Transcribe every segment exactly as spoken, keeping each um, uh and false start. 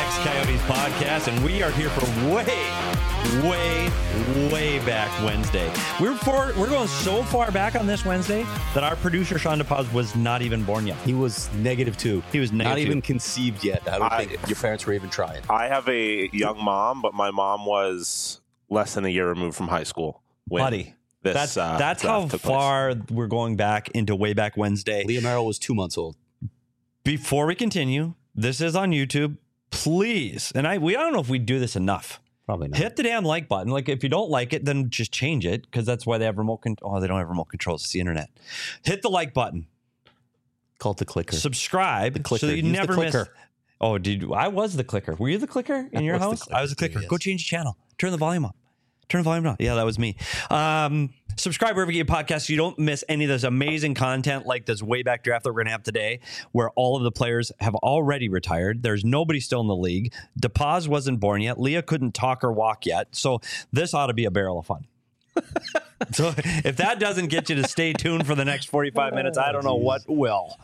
X Coyotes podcast, and we are here for way, way, way back Wednesday. We're for, we're going so far back on this Wednesday that our producer, Sean DePaz, was not even born yet. He was negative two. He was negative not even two. conceived yet. I don't I, think your parents were even trying. I have a young mom, but my mom was less than a year removed from high school. When Buddy, this, that's, uh, that's how took far place. we're going back into way back Wednesday. Leah Merrill was two months old. Before we continue, this is on YouTube. Please, and I we I don't know if we do this enough. Probably not. Hit the damn like button. Like, if you don't like it, then just change it, because that's why they have remote control. Oh, they don't have remote controls. It's the internet. Hit the like button. Call it the clicker. Subscribe The clicker. so that you Use the never miss. clicker. Oh, did I was the clicker? Were you the clicker in I your was the house? clicker I was the clicker. too, Go yes. change the channel. Turn the volume up. Turn the volume down. Yeah, that was me. Um, subscribe wherever you get your podcasts so you don't miss any of this amazing content like this way back draft that we're going to have today, where all of the players have already retired. There's nobody still in the league. DePaz wasn't born yet. Leah couldn't talk or walk yet. So this ought to be a barrel of fun. So if that doesn't get you to stay tuned for the next forty-five minutes, I don't know what will.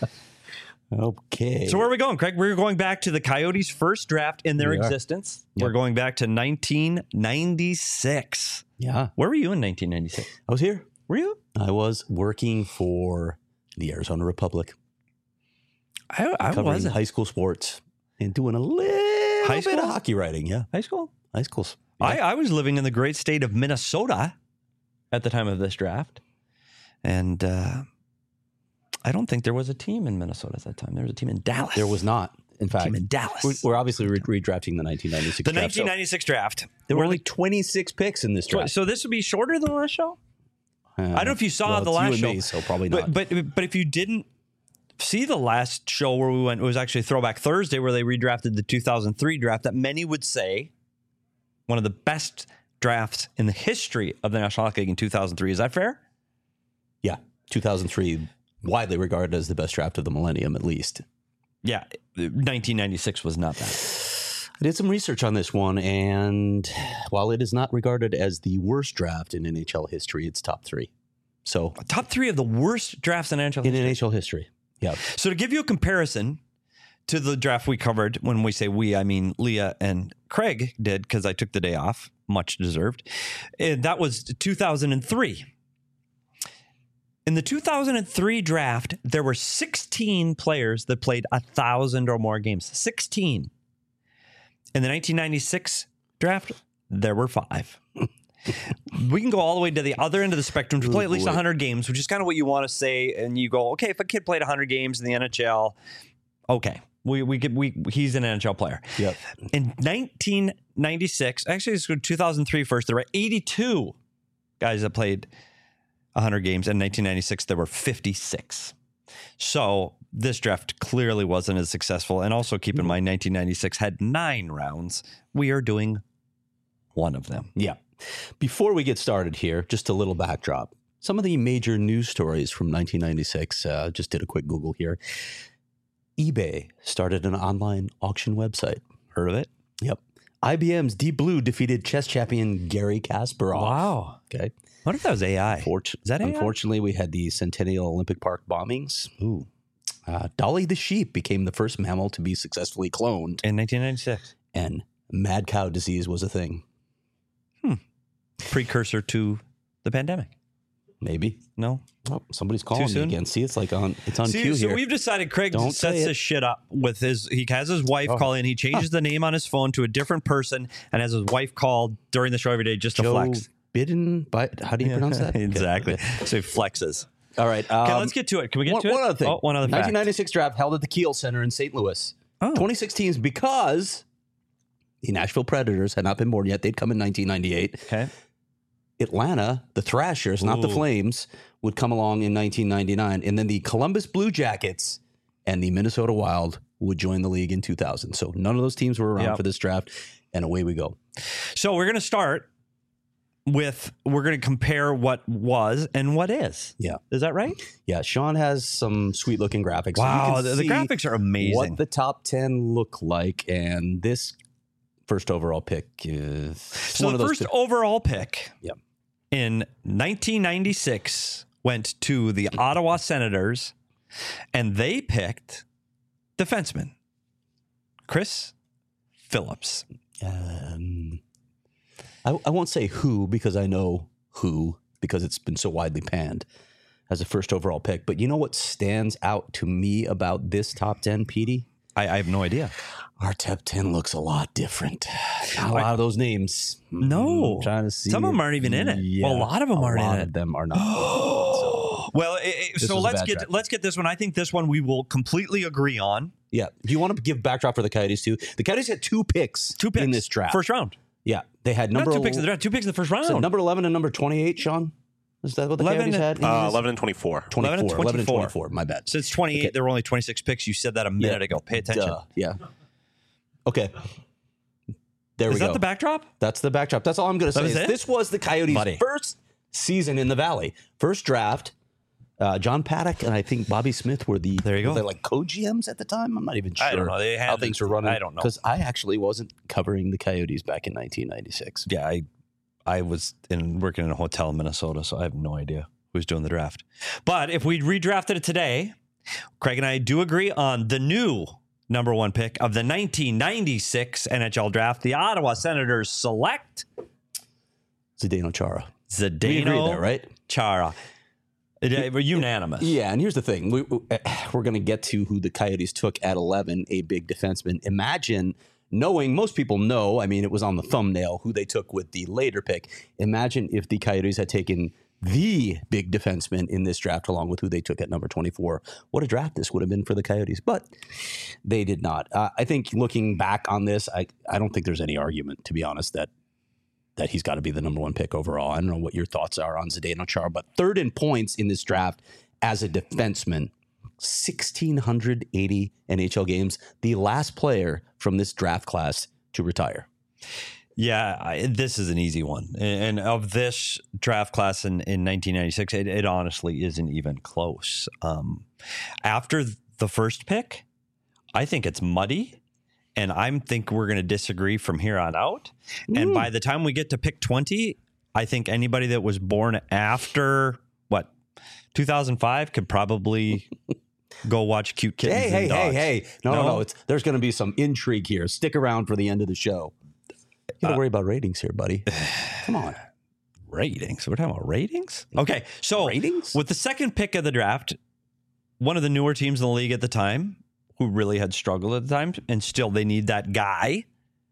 Okay. So where are we going, Craig? We're going back to the Coyotes' first draft in their We are. existence. Yep. We're going back to nineteen ninety-six. Yeah. Where were you in nineteen ninety-six? I was here. Were you? I was working for the Arizona Republic, I, I covering wasn't. high school sports and doing a little High bit school? of hockey writing. Yeah. High school? High schools. I, I was living in the great state of Minnesota at the time of this draft. And uh, I don't think there was a team in Minnesota at that time. There was a team in Dallas. There was not. In fact, team in Dallas. we're, we're obviously re- redrafting the nineteen ninety-six the draft. nineteen ninety-six draft. So there were We're only the- twenty-six picks in this draft. So this would be shorter than the last show? Uh, I don't know if you saw well, the it's last you and show. me, so probably not. But, but but if you didn't see the last show where we went, it was actually Throwback Thursday, where they redrafted the two thousand three draft that many would say one of the best drafts in the history of the National Hockey League in two thousand three. Is that fair? Yeah, two thousand three, widely regarded as the best draft of the millennium, at least. Yeah, nineteen ninety-six was not that. I did some research on this one, and while it is not regarded as the worst draft in N H L history, it's top three. So Top three of the worst drafts in N H L in history. N H L history, yeah. So to give you a comparison to the draft we covered, when we say we, I mean Leah and Craig did, because I took the day off, much deserved. And that was two thousand three. In the two thousand three draft, there were sixteen players that played one thousand or more games. sixteen. In the nineteen ninety-six draft, there were five. We can go all the way to the other end of the spectrum to play at least one hundred games, which is kind of what you want to say. And you go, okay, if a kid played one hundred games in the N H L, okay, we we could we he's an N H L player. Yep. In nineteen ninety-six, actually, it's two thousand three first. There were eighty-two guys that played one hundred games. In nineteen ninety-six, there were fifty-six. So this draft clearly wasn't as successful. And also keep in mind, nineteen ninety-six had nine rounds. We are doing one of them. Yeah. Before we get started here, just a little backdrop. Some of the major news stories from nineteen ninety-six, uh, just did a quick Google here. eBay started an online auction website. Heard of it? Yep. I B M's Deep Blue defeated chess champion Gary Kasparov. Wow. Okay. What if that was A I? Fortu- Is that A I? Unfortunately, we had the Centennial Olympic Park bombings. Ooh. Uh, Dolly the sheep became the first mammal to be successfully cloned, In nineteen ninety-six. and mad cow disease was a thing. Precursor to the pandemic. Maybe. No? Oh, somebody's calling me soon? again. See, it's like on. It's on See, cue so here. we've decided Craig Don't sets say it. this shit up with his, he has his wife Oh. call in. He changes the name on his phone to a different person and has his wife call during the show every day just to Joe flex. Biden, but how do you pronounce that? Okay. Exactly. So he flexes. All right. Um, Okay, let's get to it. Can we get one, to it? one other thing. Oh, one other fact. nineteen ninety-six draft held at the Kiel Center in Saint Louis. Oh. twenty sixteen is because the Nashville Predators had not been born yet. They'd come in nineteen ninety-eight. Okay. Atlanta, the Thrashers, not the Ooh. Flames, would come along in nineteen ninety-nine. And then the Columbus Blue Jackets and the Minnesota Wild would join the league in two thousand. So none of those teams were around Yep. for this draft. And away we go. So we're going to start with, we're going to compare what was and what is. Yeah. Is that right? Yeah. Sean has some sweet looking graphics. So you Wow. can The, the see graphics are amazing. what the top ten look like. And this first overall pick is so one the of those first two- overall pick Yep. in nineteen ninety-six went to the Ottawa Senators, and they picked defenseman Chris Phillips. Um, I, I won't say who because I know who because it's been so widely panned as a first overall pick. But you know what stands out to me about this top ten, Petey? I, I have no idea. Our top ten looks a lot different. Not a lot of those names. No. I'm trying to see. Some of them aren't even in it. Yeah, Well, a lot of them a aren't in lot it. of them are not. So, Well, it, it- This so was a let's bad get draft. let's get this one. I think this one we will completely agree on. yeah. Do you want to give backdrop for the Coyotes too? The Coyotes had two picks, Two picks in this draft. first round. Yeah, they had number Not two picks in the draft. Two picks in the first round. So number eleven and number twenty-eight, Sean? Is that what the eleven Coyotes and- had? in Uh, this? eleven and twenty-four. twenty-four. eleven and eleven and twenty-four. twenty-four. My bad. Since twenty-eight, Okay. there were only twenty-six picks. You said that a minute Yeah. ago. Pay attention. Duh. Yeah. Okay. There Is we that go. the backdrop? That's the backdrop. That's all I'm going to That say. was is it? This was the Coyotes' Buddy. first season in the Valley. First draft. Uh, John Paddock and I think Bobby Smith were the There you were go. they like co-G Ms at the time. I'm not even sure I don't know. They had how things were running. I don't know. because I actually wasn't covering the Coyotes back in nineteen ninety-six. Yeah, I I was in working in a hotel in Minnesota, so I have no idea who's doing the draft. But if we redrafted it today, Craig and I do agree on the new number one pick of the nineteen ninety-six N H L draft. The Ottawa Senators select Zdeno Chara. Zdeno We agree there, right? Chara. It- We're unanimous. Yeah, and here's the thing: we, we, we're going to get to who the Coyotes took at eleven, a big defenseman. Imagine knowing, most people know, I mean, it was on the thumbnail who they took with the later pick. Imagine if the Coyotes had taken the big defenseman in this draft along with who they took at number twenty-four. What a draft this would have been for the Coyotes, but they did not. Uh, I think looking back on this, I, I don't think there's any argument, to be honest, that that he's got to be the number one pick overall. I don't know what your thoughts are on Zdeno Chara, but third in points in this draft as a defenseman, one thousand six hundred eighty N H L games, the last player from this draft class to retire. Yeah, I, this is an easy one. And, and of this draft class in, in nineteen ninety-six, it, it honestly isn't even close. Um, after the first pick, I think it's muddy. And I think we're going to disagree from here on out. And Ooh. by the time we get to pick twenty, I think anybody that was born after, what, two thousand five could probably go watch Cute Kittens Hey, and hey, hey, Dogs. hey. No, no, No? no. It's, there's going to be some intrigue here. Stick around for the end of the show. You got to Uh, worry about ratings here, buddy. Come on. Ratings. We're talking about ratings? Okay, so Ratings? with the second pick of the draft, one of the newer teams in the league at the time, who really had struggled at the time, and still they need that guy,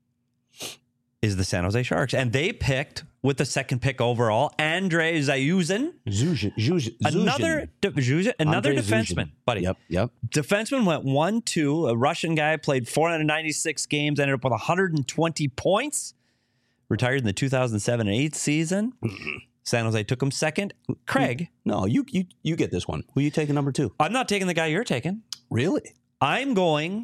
is the San Jose Sharks. And they picked, with the second pick overall, Andrei Zayuzin, Zuzhin. Zuzhin. another de- Zuzhin, another Andrei defenseman, Zuzhin. buddy. Yep, yep. Defenseman went one two. A Russian guy played four hundred ninety-six games, ended up with one hundred twenty points. Retired in the two thousand seven and eight season. San Jose took him second. Craig, No, you you you get this one. Who you taking number two? I'm not taking the guy you're taking. Really? I'm going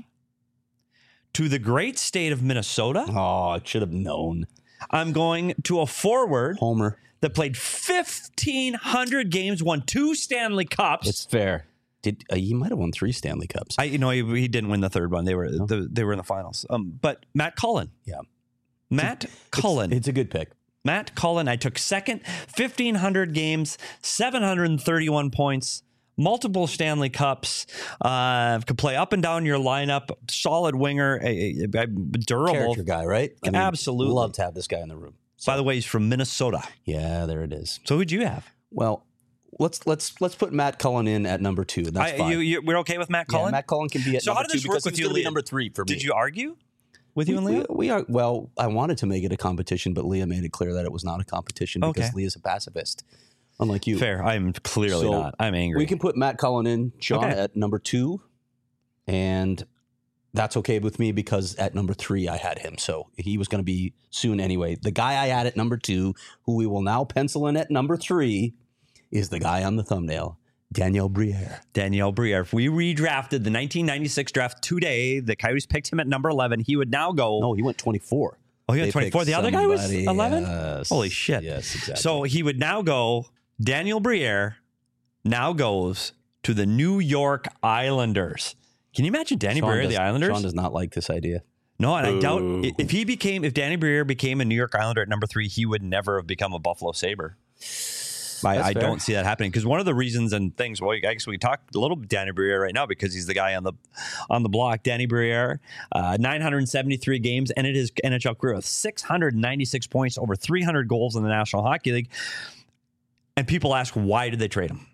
to the great state of Minnesota. Oh, I should have known. I'm going to a forward Homer. that played fifteen hundred games, won two Stanley Cups. It's fair. Did uh, he might have won three Stanley Cups? I, you know, he, he didn't win the third one. They were No. the, they were in the finals. Um, but Matt Cullen, yeah, Matt Cullen, It's a good pick. Matt Cullen. I took second, fifteen hundred games, seven hundred thirty-one points, multiple Stanley Cups. Uh, could play up and down your lineup. Solid winger, a, a, a durable. Character guy, right? Absolutely. Love to have this guy in the room. By the way, he's from Minnesota. Yeah, there it is. So who'd you have? Well, let's let's let's put Matt Cullen in at number two. That's I, fine. you, you, we're okay with Matt Yeah, Cullen? Matt Cullen can be at So number how did this two work because with he's you, gonna be Leah? number three for me. Did you argue with you and we, Leah? we, we are well. I wanted to make it a competition, but Leah made it clear that it was not a competition because Okay. Leah's a pacifist, unlike you. Fair. I'm clearly So, not. I'm angry. We can put Matt Cullen in, Sean, Okay. at number two, and that's okay with me because at number three I had him, so he was going to be soon anyway. The guy I had at number two, who we will now pencil in at number three, is the guy on the thumbnail, Daniel Briere. Danielle Briere. If we redrafted the nineteen ninety-six draft today, the Coyotes picked him at number eleven. He would now go. No, he went twenty-four. oh, he went They twenty-four. picked The other guy was somebody, eleven? yes. Holy shit. Yes, exactly. So he would now go. Daniel Briere now goes to the New York Islanders. Can you imagine Danny Sean Briere, does, the Islanders? Sean does not like this idea. No, and I doubt Boo. if he became, if Danny Briere became a New York Islander at number three, he would never have become a Buffalo Sabre. I, That's I fair. don't see that happening because one of the reasons and things. Well, I guess we talked a little bit Danny Briere right now because he's the guy on the on the block. Danny Briere, uh, nine hundred seventy-three games, ended his N H L career with six hundred ninety-six points, over three hundred goals in the National Hockey League. And people ask, why did they trade him?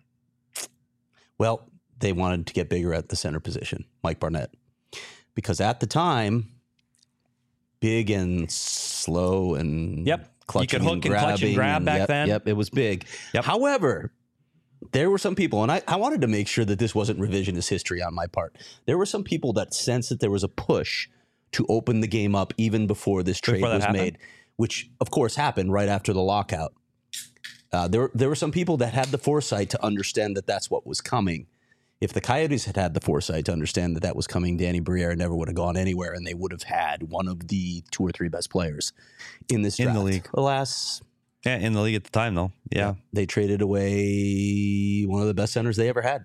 Well, they wanted to get bigger at the center position, Mike Barnett, because at the time, big and slow and Yep. clutching You could hook and clutch and grabbing grab back yep, then. Yep, it was big. Yep. However, there were some people, and I, I wanted to make sure that this wasn't revisionist history on my part. There were some people that sensed that there was a push to open the game up even before this trade Before that was happened? made, which of course happened right after the lockout. Uh, there, there were some people that had the foresight to understand that that's what was coming. If the Coyotes had had the foresight to understand that that was coming, Danny Briere never would have gone anywhere, and they would have had one of the two or three best players in this In draft. the league. Alas, Yeah, in the league at the time, though. Yeah, they traded away one of the best centers they ever had.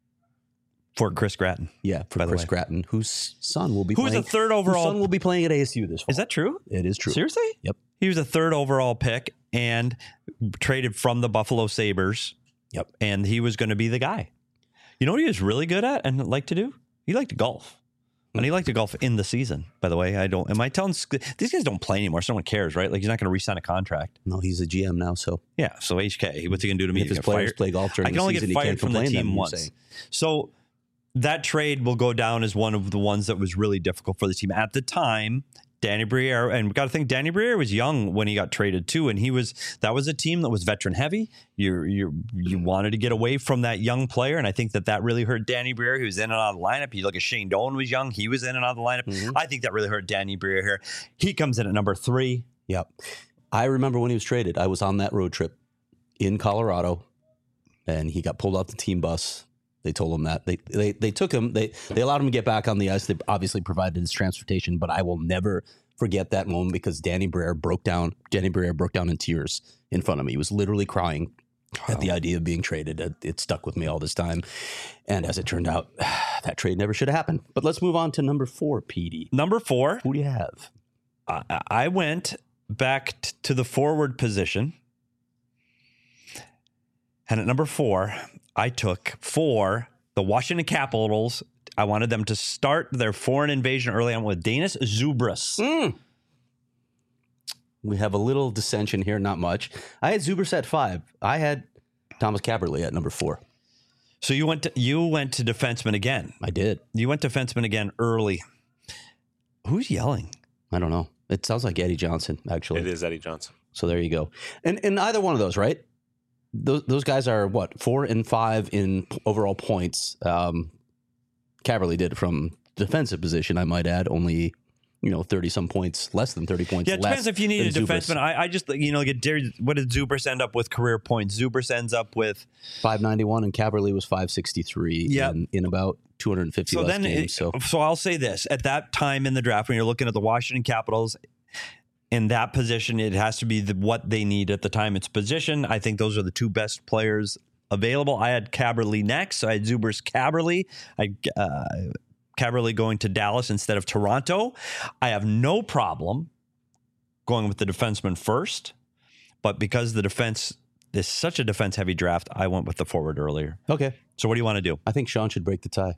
for Chris Gratton. Yeah, for By the Chris way. Gratton, whose son will be Who was playing. the third whose overall? son will be playing at A S U this fall. Is that true? It is true. Seriously? Yep. He was a third overall pick and traded from the Buffalo Sabres. Yep. And he was going to be the guy. You know what he was really good at and liked to do? He liked to golf. And he liked to golf in the season, by the way. I don't, am I telling, these guys don't play anymore. So no one cares, right? Like he's not going to re-sign a contract. No, he's a G M now, so Yeah. So H K, what's he going to do to me? if his Get players fired? play golf during I can the only season, get he fired can't from the complain team them, you're once. saying. So that trade will go down as one of the ones that was really difficult for the team at the time. Danny Briere, and we got to think Danny Briere was young when he got traded too, and he was that was a team that was veteran heavy. You you you wanted to get away from that young player, and I think that that really hurt Danny Briere. He was in and out of the lineup. You look at Shane Doan was young; he was in and out of the lineup. Mhm. I think that really hurt Danny Briere here. He comes in at number three. Yep. I remember when he was traded, I was on that road trip in Colorado, and he got pulled off the team bus. They told him that. They they they took him. They they allowed him to get back on the ice. They obviously provided his transportation, but I will never forget that moment because Danny Briere broke down. Danny Briere broke down in tears in front of me. He was literally crying at the idea of being traded. It, it stuck with me all this time. And as it turned out, that trade never should have happened. But let's move on to number four, Petey. Number four, Who do you have? I, I went back t- to the forward position. And at number four, I took for the Washington Capitals. I wanted them to start their foreign invasion early on with Danis Zubras. Mm. We have a little dissension here, not much. I had Zubers at five. I had Thomas Kaberle at number four. So you went to you went to defenseman again. I did. You went defenseman again early. Who's yelling? I don't know. It sounds like Eddie Johnson, actually. It is Eddie Johnson. So there you go. And and either one of those, right? Those those guys are what, four and five in overall points. Um, Kaberle did from defensive position, I might add, only you know thirty some points, less than thirty points. Yeah, it less depends if you need a than Zubers. defenseman. I, I just you know like Darius- what did Zubras end up with career points? Zubras ends up with five ninety-one, and Kaberle was five sixty-three. Yep. in, in about two hundred fifty so less then games. it- so so I'll say this: at that time in the draft, when you're looking at the Washington Capitals. In that position, it has to be the, what they need at the time. It's position. I think those are the two best players available. I had Kaberle next. So I had Zubers Kaberle. I uh, Kaberle going to Dallas instead of Toronto. I have no problem going with the defenseman first, but because the defense is such a defense-heavy draft, I went with the forward earlier. okay. So what do you want to do? I think Sean should break the tie.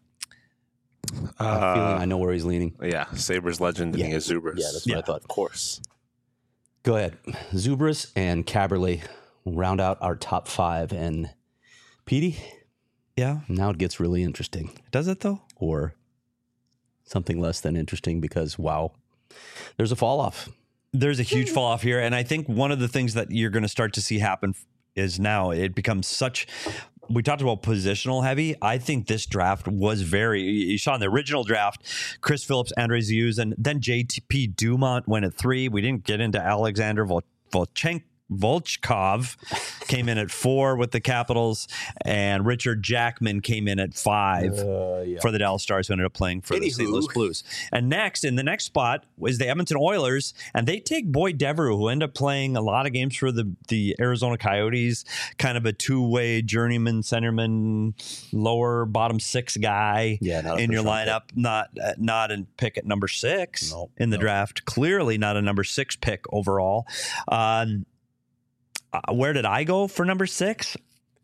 I have a Uh, feeling I know where he's leaning. Yeah, Sabres legend Yeah. yeah. is Zubers. Yeah, that's what Yeah. I thought. Of course. Go ahead. Zubris and Kaberle will round out our top five. And Petey, Yeah, now it gets really interesting. does it though? Or something less than interesting because, wow, there's a fall off. There's a huge fall off here. And I think one of the things that you're going to start to see happen is now it becomes such. We talked about positional heavy. I think this draft was very. You saw in the original draft, Chris Phillips, Andrei Ziuzan, then J T P Dumont went at three. We didn't get into Alexander Vol- Volchenko. Volchkov came in at four with the Capitals, and Richard Jackman came in at five Uh, yeah. for the Dallas Stars, who ended up playing for the Saint Anywho. Louis Blues. And next, in the next spot, was the Edmonton Oilers, and they take Boyd Devereaux, who ended up playing a lot of games for the, the Arizona Coyotes, kind of a two-way journeyman, centerman, lower bottom six guy Yeah, not a in your first round lineup. Not uh, not a pick at number six No, in the no. draft. Clearly not a number six pick overall. Um, uh, where did I go for number six?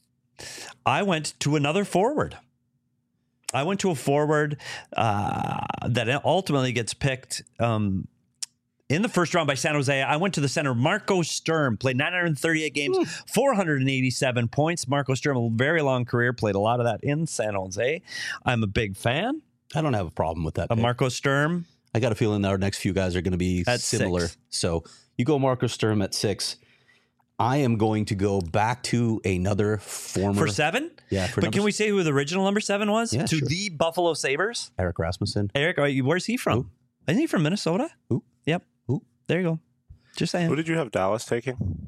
I went to another forward. I went to a forward uh, that ultimately gets picked um, in the first round by San Jose. I went to the center, Marco Sturm, played nine hundred thirty-eight games, Ooh. four hundred eighty-seven points. Marco Sturm, a very long career, played a lot of that in San Jose. I'm a big fan. I don't have a problem with that. Of Marco Sturm. I got a feeling our next few guys are going to be at similar. Six. So you go Marco Sturm at six. I am going to go back to another former. For seven? Yeah. For but can we say who the original number seven was? Yeah, to sure. the Buffalo Sabres? Erik Rasmussen. Eric, where's he from? Who? Isn't he from Minnesota? Who? Yep. Who? There you go. Just saying. Who did you have Dallas taking?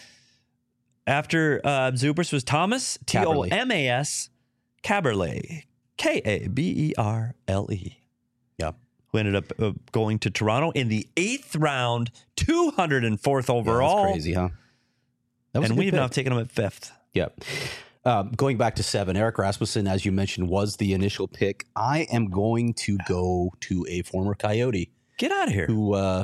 After uh, Zubris was Thomas, T O M A S, Kaberle, K A B E R L E. Yeah. Who ended up uh, going to Toronto in the eighth round, two hundred fourth overall. Yeah, that's crazy, huh? That was and we've pick. now taken him at fifth. Yep. Um, going back to seven, Erik Rasmussen, as you mentioned, was the initial pick. I am going to go to a former Coyote. Get out of here. Who uh,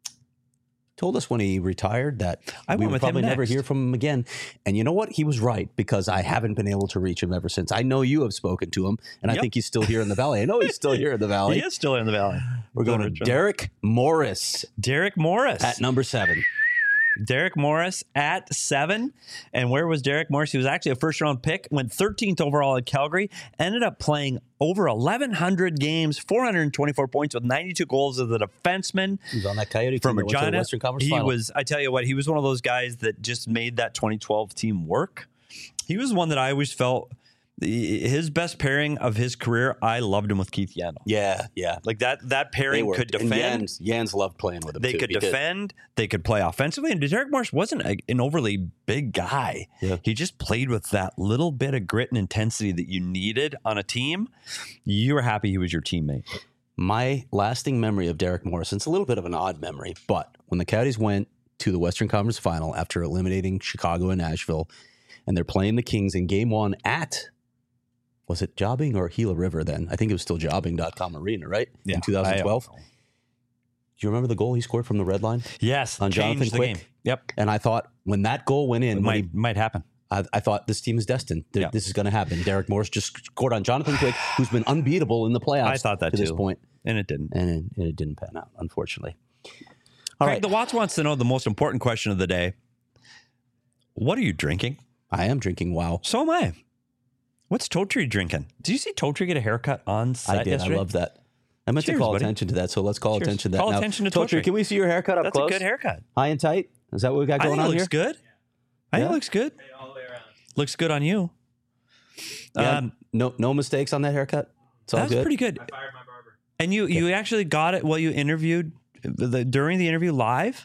told us when he retired that I we went would with probably him never next. hear from him again. And you know what? He was right, because I haven't been able to reach him ever since. I know you have spoken to him, and Yep. I think he's still here in the Valley. I know he's still here in the Valley. He is still in the Valley. We're going to Derek Morris Derek Morris. at number seven. Derek Morris at seven. And where was Derek Morris? He was actually a first round pick, went thirteenth overall at Calgary, ended up playing over eleven hundred games, four hundred twenty-four points with ninety-two goals as a defenseman. He was on that Coyote From team that went to the Regina. Western Conference He Final. was, I tell you what, he was one of those guys that just made that twenty twelve team work. He was one that I always felt his best pairing of his career. I loved him with Keith Yandel. Yeah, yeah. Like that, that They pairing worked. could And defend. Jans, Jans loved playing with him, They too. could He did. defend. They could play offensively. And Derek Morris wasn't a, an overly big guy. Yeah. He just played with that little bit of grit and intensity that you needed on a team. You were happy he was your teammate. My lasting memory of Derek Morris, it's a little bit of an odd memory, but when the Coyotes went to the Western Conference Final after eliminating Chicago and Nashville, and they're playing the Kings in game one at, was it Jobbing or Gila River then? I think it was still jobbing dot com Arena, right? Yeah, In twenty twelve. I- Do you remember the goal he scored from the red line? Yes. On changed Jonathan the Quick? game. Yep. And I thought when that goal went in, It when might, he, might happen. I, I thought this team is destined. Th- Yeah. This is going to happen. Derek Morris just scored on Jonathan Quick, who's been unbeatable in the playoffs I thought that to this too. point. And it didn't. And it, and it didn't pan out, unfortunately. All Craig, right. the Watts wants to know the most important question of the day. What are you drinking? I am drinking Wow. So am I. What's Totri drinking? Did you see Totri get a haircut on set I did. yesterday? I love that. I meant Cheers, to call buddy. attention to that, so let's call Cheers. attention to that Call now. attention to Totri, Totri. can we see your haircut up That's close? a good haircut. High and tight? Is that what we got I going think it on looks here? good. I think Yeah. it looks good. all the way around. Looks good on you. Yeah, Um, no, no mistakes on that haircut. It's all that's good. pretty good. I fired my barber. And you, you actually got it while you interviewed the, during the interview live.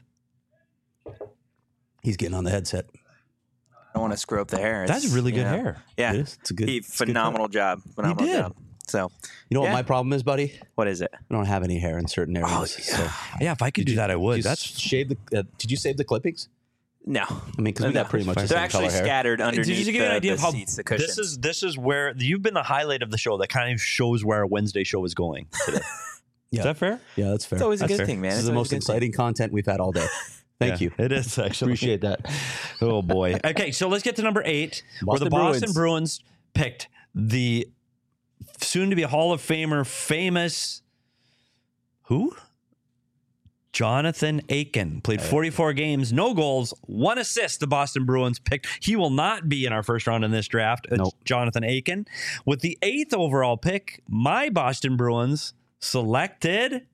He's getting on the headset. I don't want to screw up the hair. That's It's, really good you know, hair. Yeah, It is. It's a good. he it's a good phenomenal job. Phenomenal did. job. So, You know what Yeah. my problem is, buddy? what is it? I don't have any hair in certain areas. Oh, so. Yeah, if I could do that, I would. Did you That's shave the. Uh, did you save the clippings? No, I mean, because we No. got pretty much the they're same actually color hair. scattered Did underneath you give you an the, idea the of how seats, the cushions. this is? This is where you've been the highlight of the show. That kind of shows where our Wednesday show is going today. Yeah. Is that fair? Yeah, that's fair. It's always a That's good fair. thing, man. This It's is the always most a good thing. exciting content we've had all day. Thank Yeah, you. It is actually. Appreciate that. Oh boy. Okay, so let's get to number eight, where the Boston Boston Bruins picked the soon-to-be Hall of Famer, famous who? Jonathan Aiken. Played forty-four games, no goals, one assist. The Boston Bruins picked. He will not be in our first round in this draft. It's Nope. Jonathan Aiken. With the eighth overall pick, my Boston Bruins selected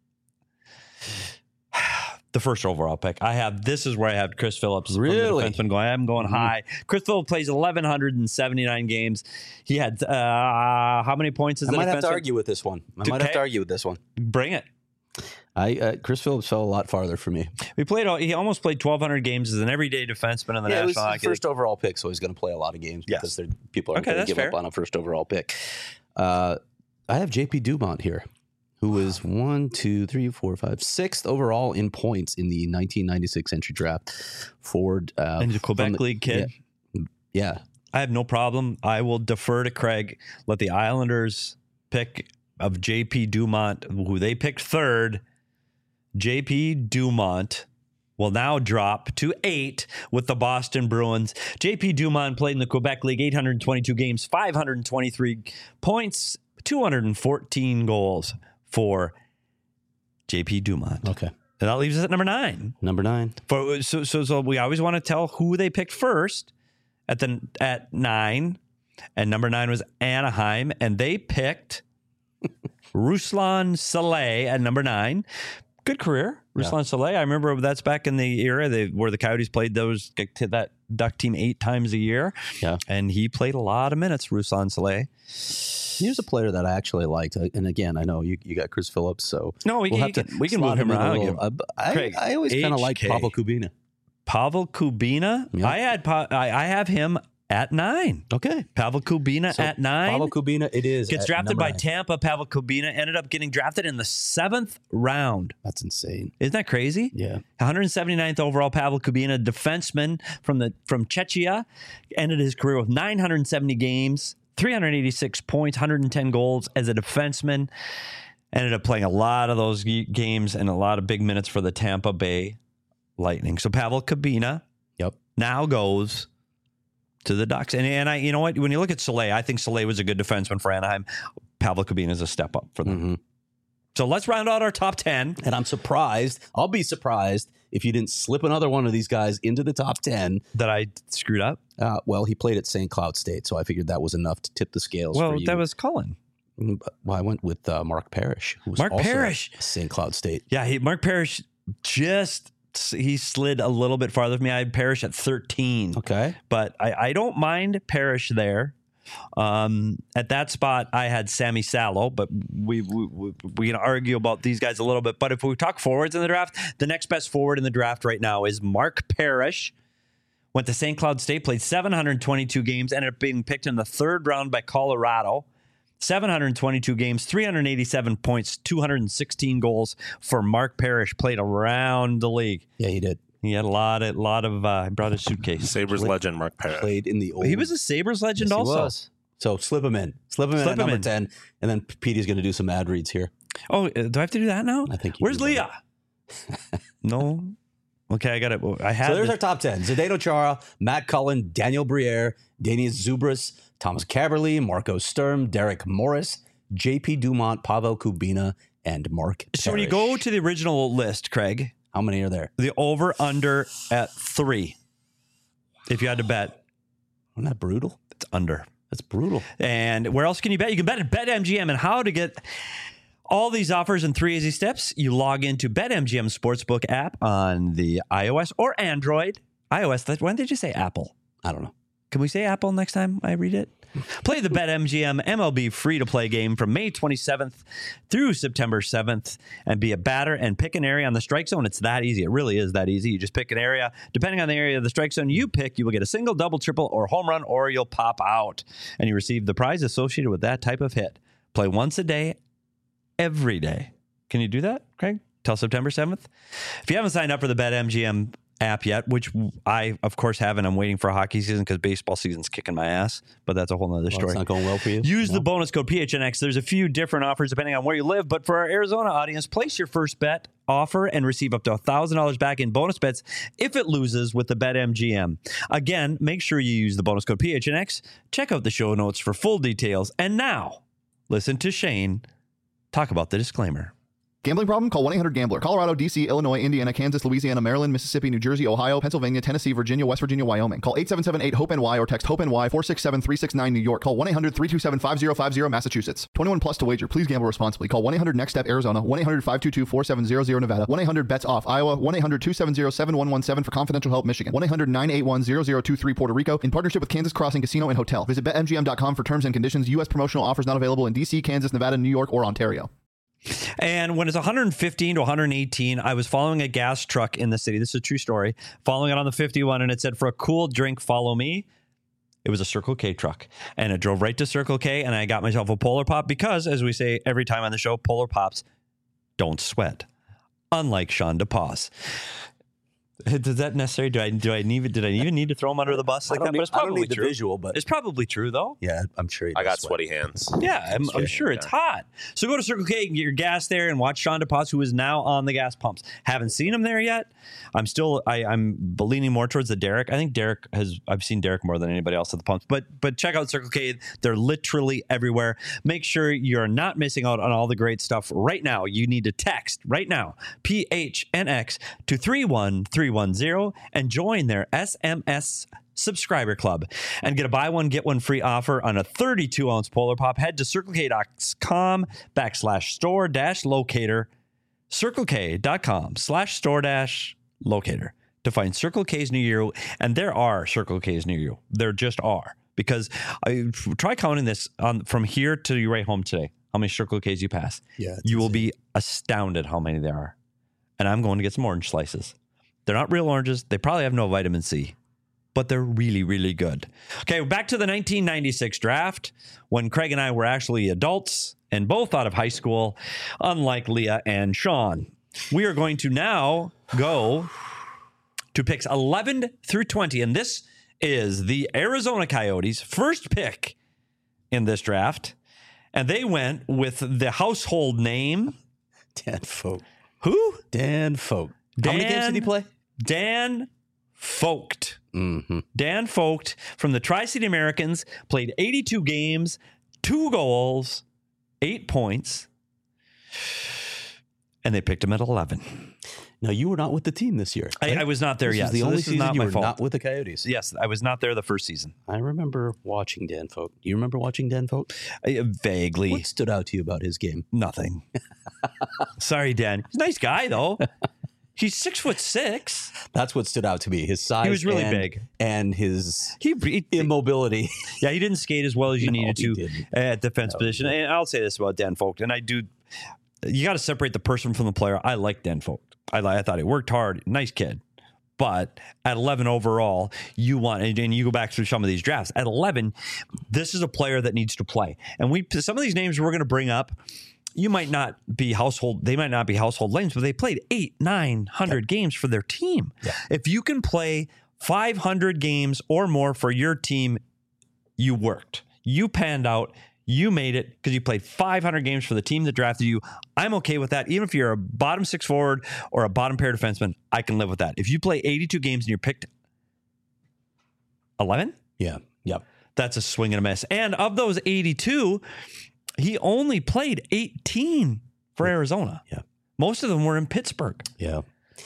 the first overall pick. I have, this is where I have Chris Phillips. from the Really? defenseman going, I'm going Mm-hmm. high. Chris Phillips plays eleven seventy-nine games. He had, uh, how many points is I the might have to defenseman? argue with this one. I Okay. might have to argue with this one. Bring it. I uh, Chris Phillips fell a lot farther for me. We played, all, he almost played twelve hundred games as an everyday defenseman in the Yeah, it was National the Hockey first League. overall pick, so he's going to play a lot of games Yes. because they're, people aren't Okay, going to that's give fair. up on a first overall pick. Uh, I have J P Dumont here, who is one, two, three, four, five, sixth overall in points in the nineteen ninety-six entry draft. Ford, uh, And the from Quebec the- League kid. Yeah, yeah. I have no problem. I will defer to Craig. Let the Islanders pick of J P Dumont, who they picked third. J P Dumont will now drop to eight with the Boston Bruins. J P Dumont played in the Quebec League, eight hundred twenty-two games, five hundred twenty-three points, two hundred fourteen goals for J P Dumont. Okay. And that leaves us at number nine. Number nine. For, so, so, so we always want to tell who they picked first at the at nine. And number nine was Anaheim, and they picked Ruslan Saleh at number nine. Good career, Ruslan yeah. Saleh. I remember that's back in the era they, where the Coyotes played those that Duck team eight times a year. Yeah, and he played a lot of minutes. Ruslan Saleh. He was a player that I actually liked, and again, I know you, you got Chris Phillips, so no, we we'll can, have to we can move him around. Little, uh, I, Craig, I always kind of like Pavel Kubina. Pavel Kubina. Yep. I had I, I have him at nine. Okay. Pavel Kubina so at nine. Pavel Kubina, it is. Gets drafted by nine. Tampa. Pavel Kubina ended up getting drafted in the seventh round. That's insane. Isn't that crazy? Yeah. one hundred seventy-ninth overall, Pavel Kubina, defenseman from the from Czechia, ended his career with nine hundred seventy games, three hundred eighty-six points, one hundred ten goals as a defenseman. Ended up playing a lot of those games and a lot of big minutes for the Tampa Bay Lightning. So Pavel Kubina yep. now goes to the Ducks. And, and I, you know what? When you look at Saleh, I think Saleh was a good defenseman for Anaheim. Pavel Kubina is a step up for them. Mm-hmm. So let's round out our top ten. And I'm surprised. I'll be surprised if you didn't slip another one of these guys into the top ten. That I screwed up? Uh, well, he played at Saint Cloud State, so I figured that was enough to tip the scales well, for you. That was Cullen. Well, I went with uh, Mark Parrish, who was Mark also Parrish. at Saint Cloud State. Yeah, he, Mark Parrish just... he slid a little bit farther than me. I had Parrish at thirteen. Okay. But I, I don't mind Parrish there. Um, at that spot, I had Sammy Salo, but we, we, we, we can argue about these guys a little bit. But if we talk forwards in the draft, the next best forward in the draft right now is Mark Parrish. Went to Saint Cloud State, played seven hundred twenty-two games, ended up being picked in the third round by Colorado. seven hundred twenty-two games, three hundred eighty-seven points, two hundred sixteen goals for Mark Parrish. Played around the league. Yeah, he did. He had a lot of, lot of. Uh, he brought a suitcase. Sabres Played- legend Mark Parrish. Played in the old. He was a Sabres legend Yes, he also. was. So slip him in. Slip him in Slip at him number in. ten, and then Petey's going to do some ad reads here. Oh, uh, do I have to do that now? I think you Where's do. Leah? No. Okay, I got it. I had. So there's this- our top ten. Zdeno Chara, Matt Cullen, Daniel Briere, Daniel Zubris, Thomas Caberly, Marco Sturm, Derek Morris, J P Dumont, Pavel Kubina, and Mark Parrish. So when you go to the original list, Craig, how many are there? the over under at three. If you had to bet, Isn't that brutal? it's under. That's brutal. And where else can you bet? You can bet at BetMGM. And how to get all these offers in three easy steps. You log into BetMGM Sportsbook app on the iOS or Android. iOS, that- when did you say Apple? I don't know. Can we say Apple next time I read it? Play the BetMGM M L B free-to-play game from May twenty-seventh through September seventh and be a batter and pick an area on the strike zone. It's that easy. It really is that easy. You just pick an area. Depending on the area of the strike zone you pick, you will get a single, double, triple, or home run, or you'll pop out. And you receive the prize associated with that type of hit. Play once a day, every day. Can you do that, Craig? Till September seventh? If you haven't signed up for the BetMGM app yet, which I, of course, haven't. I'm waiting for hockey season because baseball season's kicking my ass, but that's a whole nother Well, story. it's not going well for you. Use No? the bonus code P H N X. There's a few different offers depending on where you live, but for our Arizona audience, place your first bet offer and receive up to one thousand dollars back in bonus bets if it loses with the BetMGM. Again, make sure you use the bonus code P H N X. Check out the show notes for full details. And now, listen to Shane talk about the disclaimer. Gambling problem? Call one eight hundred gambler. Colorado, D C, Illinois, Indiana, Kansas, Louisiana, Maryland, Mississippi, New Jersey, Ohio, Pennsylvania, Tennessee, Virginia, West Virginia, Wyoming. Call eight seven seven eight hope N Y or text HOPE-NY four six seven three six nine New York. Call one eight hundred three two seven five zero five zero Massachusetts. twenty-one plus to wager. Please gamble responsibly. Call one eight hundred next step Arizona. one eight hundred five two two four seven zero zero Nevada. one eight hundred bets off Iowa. one eight hundred two seven zero seven one one seven for confidential help Michigan. one eight hundred nine eight one zero zero two three Puerto Rico in partnership with Kansas Crossing Casino and Hotel. Visit bet M G M dot com for terms and conditions. U S promotional offers not available in D C, Kansas, Nevada, New York, or Ontario. And when it's one hundred fifteen to one hundred eighteen, I was following a gas truck in the city. This is a true story. Following it on the fifty-one, and it said, for a cool drink, follow me. It was a Circle K truck. And it drove right to Circle K, and I got myself a Polar Pop because, as we say every time on the show, Polar Pops don't sweat. Unlike Sean DePaz. Is that necessary? Do I do I need did I even need to throw him under the bus like I that? don't But it's need- I don't probably need the true. visual, but It's probably true though. yeah, I'm sure he I does got sweat. sweaty hands. Yeah, I'm, I'm Sweaty sure hands, it's yeah. hot. So go to Circle K and get your gas there and watch Sean DePaz, who is now on the gas pumps. Haven't seen him there yet. I'm still I, I'm leaning more towards the Derek. I think Derek has I've seen Derek more than anybody else at the pumps. But but check out Circle K. They're literally everywhere. Make sure you're not missing out on all the great stuff right now. You need to text right now P H N X to three one three one zero and join their S M S subscriber club and get a buy one get one free offer on a thirty-two ounce Polar Pop. Head to circlek.com backslash store dash locator, circlek.com slash store dash locator to find Circle K's near you. And there are Circle K's near you. There just are, because I try counting this on from here to your way home today. How many Circle K's you pass? Yeah, it's you will insane. be astounded how many there are. And I'm going to get some orange slices. They're not real oranges. They probably have no vitamin C, but they're really, really good. Okay, back to the nineteen ninety-six draft when Craig and I were actually adults and both out of high school, unlike Leah and Sean. We are going to now go to picks eleven through twenty, and this is the Arizona Coyotes' first pick in this draft, and they went with the household name. Dan Folk. Who? Dan Folk. How many games did he Dan- play? Dan Vogt. Mm-hmm. Dan Vogt from the Tri-City Americans played eighty-two games, two goals, eight points, and they picked him at eleven. Now, you were not with the team this year. I, right? I was not there This yet. is the so only this is season not you my were fault. not with the Coyotes. Yes, I was not there the first season. I remember watching Dan Folk. Do you remember watching Dan Folk? I, vaguely. What stood out to you about his game? Nothing. Sorry, Dan. He's a nice guy, though. He's six foot six. That's what stood out to me. His size. He was really and, big. And his He, he immobility. yeah, he didn't skate as well as you No, needed he to didn't. at defense position. And I'll say this about Dan Vogt, and I do. You got to separate the person from the player. I like Dan Vogt. I, I thought he worked hard. Nice kid. But at eleven overall, you want, and, and you go back through some of these drafts. At eleven, this is a player that needs to play. And we some of these names we're going to bring up, you might not be household, they might not be household names, but they played eight, nine hundred games for their team. Yeah. If you can play five hundred games or more for your team, you worked. You panned out. You made it because you played five hundred games for the team that drafted you. I'm okay with that. Even if you're a bottom six forward or a bottom pair defenseman, I can live with that. If you play eighty-two games and you're picked eleven, Yeah. Yep. that's a swing and a miss. And of those eighty-two, he only played eighteen for Arizona. Yeah. Most of them were in Pittsburgh. Yeah.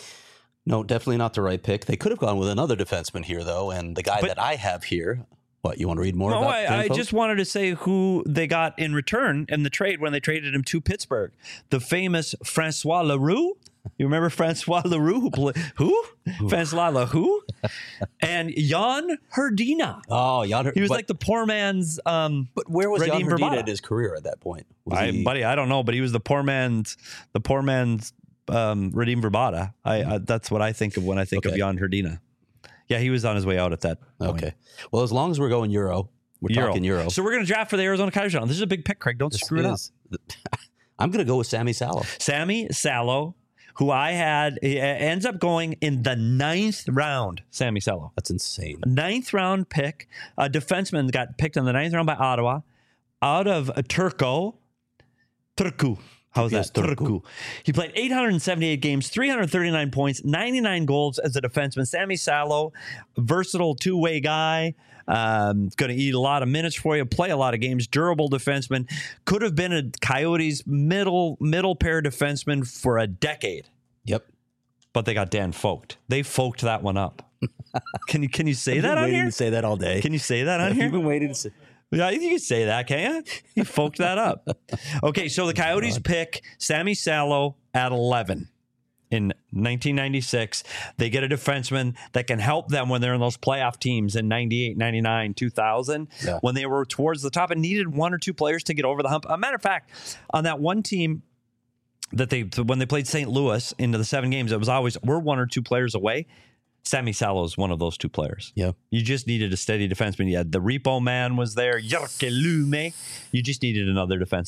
No, definitely not the right pick. They could have gone with another defenseman here, though. And the guy But- that I have here, what, you want to read more No, about I, Dan I Folk? just wanted to say who they got in return in the trade when they traded him to Pittsburgh. The famous Francois Leroux. You remember Francois Leroux? Who? Play, who? Francois Leroux? And Jan Herdina. Oh, Jan, He was but, like the poor man's. Um, But where was Jan Radim Herdina Vrbata. in his career at that point? Was I, he- buddy, I don't know, but he was the poor man's. The poor man's um, Radim Vrbata. I, I that's what I think of when I think Okay. of Jan Herdina. Yeah, he was on his way out at that point. Okay. Well, as long as we're going Euro, we're Euro. talking Euro. So we're going to draft for the Arizona Coyotes. This is a big pick, Craig. Don't This screw it up. is- I'm going to go with Sammy Salo. Sammy Salo, who I had, he ends up going in the ninth round. Sammy Salo, That's insane. ninth round pick. A defenseman got picked in the ninth round by Ottawa, out of uh, Turco, Turku. How's Yes, that? Turku. Turku. He played eight hundred seventy-eight games, three hundred thirty-nine points, ninety-nine goals as a defenseman. Sammy Salo, versatile two-way guy. Um, going to eat a lot of minutes for you, play a lot of games, durable defenseman. Could have been a Coyotes middle middle pair defenseman for a decade, Yep. but they got Dan Vogt. They folked that one up. Can you can you say I've that been on waiting here? to say that all day. Can you say that on You've here? been waiting to say. Yeah, you can say that, can't you? You folked that up. Okay, so the Coyotes pick Sammy Salo at eleven. In nineteen ninety-six, they get a defenseman that can help them when they're in those playoff teams in ninety-eight, ninety-nine, two thousand, Yeah. when they were towards the top and needed one or two players to get over the hump. A matter of fact, on that one team that they, when they played Saint Louis into the seven games, it was always, we're one or two players away. Sammy Salo is one of those two players. Yeah. You just needed a steady defenseman. You had the Repo Man was there, Jyrki Lume. You just needed another defenseman.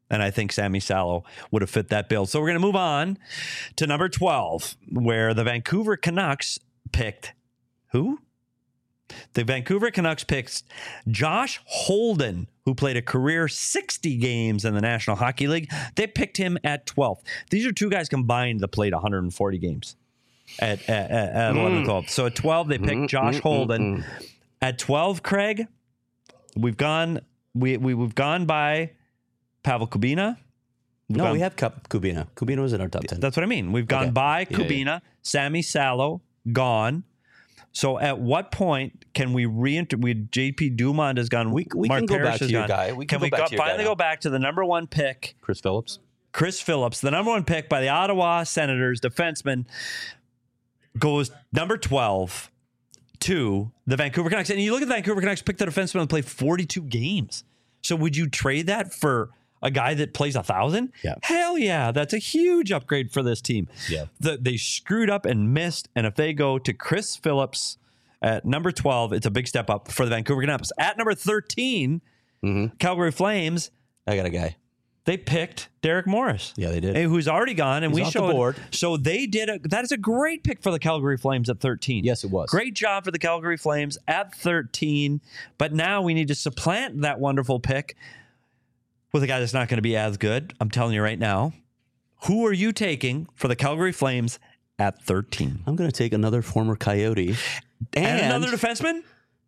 And I think Sammy Salo would have fit that bill. So we're going to move on to number twelve, where the Vancouver Canucks picked who? The Vancouver Canucks picked Josh Holden, who played a career sixty games in the National Hockey League. They picked him at twelfth. These are two guys combined that played one hundred forty games at, at, at, at mm. eleven, twelve. So at twelve, they picked mm, Josh mm, Holden. Mm, mm. At twelve, Craig, we've gone we, we we've gone by Pavel Kubina. We've no, gone, we have Kubina. Kubina was in our top ten. That's what I mean. We've gone okay. by yeah, Kubina, yeah. Sammy Salo, gone. So at what point can we re-enter? We J P Dumont has gone. We, we Mark can go Parrish back to has your gone. guy. We can, can go we back go, to your finally guy go back to the number one pick? Chris Phillips. Chris Phillips, the number one pick by the Ottawa Senators defenseman, goes number twelve to the Vancouver Canucks. And you look at the Vancouver Canucks, pick the defenseman and play forty-two games. So would you trade that for a guy that plays a thousand? Yeah. Hell yeah. That's a huge upgrade for this team. Yeah. The, they screwed up and missed. And if they go to Chris Phillips at number twelve, it's a big step up for the Vancouver Canucks. At number thirteen, mm-hmm. Calgary Flames. I got a guy. They picked Derek Morris. Yeah, they did. Who's already gone, and He's we off showed. The board. So they did a. That is a great pick for the Calgary Flames at thirteen. Yes, it was. Great job for the Calgary Flames at thirteen. But now we need to supplant that wonderful pick with a guy that's not going to be as good. I'm telling you right now. Who are you taking for the Calgary Flames at thirteen? I'm going to take another former Coyote and, and another defenseman.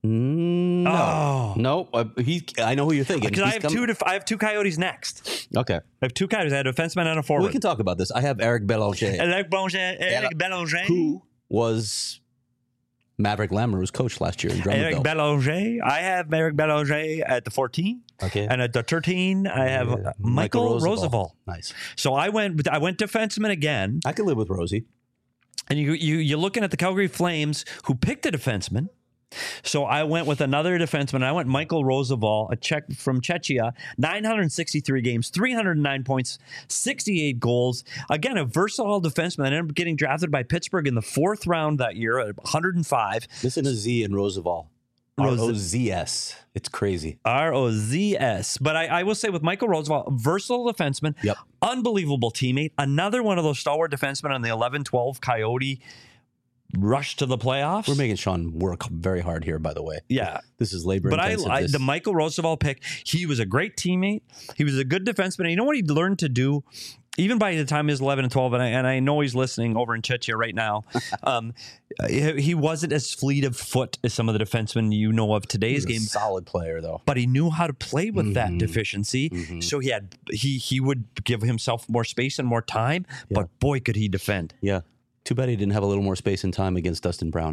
No, oh. no. Uh, he. I know who you're thinking. Because I have come... two. Def- I have two Coyotes next. Okay, I have two Coyotes. I have a defenseman and a forward. We can talk about this. I have Eric Belanger. Eric Belanger. Eric Belanger, who was Maverick Lamoureux's coach last year in Drummondville. Eric Belanger. I have Eric Belanger at the fourteen. Okay, and at the thirteen, I have uh, Michael, Michael Roosevelt. Nice. So I went. I went defenseman again. I could live with Rosie. And you you you're looking at the Calgary Flames, who picked a defenseman. So I went with another defenseman. I went Michael Roosevelt, a Czech from Czechia, nine hundred sixty-three games, three hundred nine points, sixty-eight goals. Again, a versatile defenseman. I ended up getting drafted by Pittsburgh in the fourth round that year at one hundred five. Listen to Z in Roosevelt. R O Z S. It's crazy. R O Z S. But I, I will say with Michael Roosevelt, versatile defenseman, yep. unbelievable teammate, another one of those stalwart defensemen on the eleven twelve Coyote rush to the playoffs. We're making Sean work very hard here, by the way. Yeah. This is labor but intensive. But I, I this. the Michael Roosevelt pick, he was a great teammate. He was a good defenseman. And you know what he learned to do? Even by the time he was eleven and twelve, and I, and I know he's listening over in Czechia right now, um, he, he wasn't as fleet of foot as some of the defensemen you know of today's game. Solid player, though. But he knew how to play with mm-hmm. that deficiency. Mm-hmm. So he had he he would give himself more space and more time, yeah. but boy, could he defend. Yeah. Too bad he didn't have a little more space and time against Dustin Brown.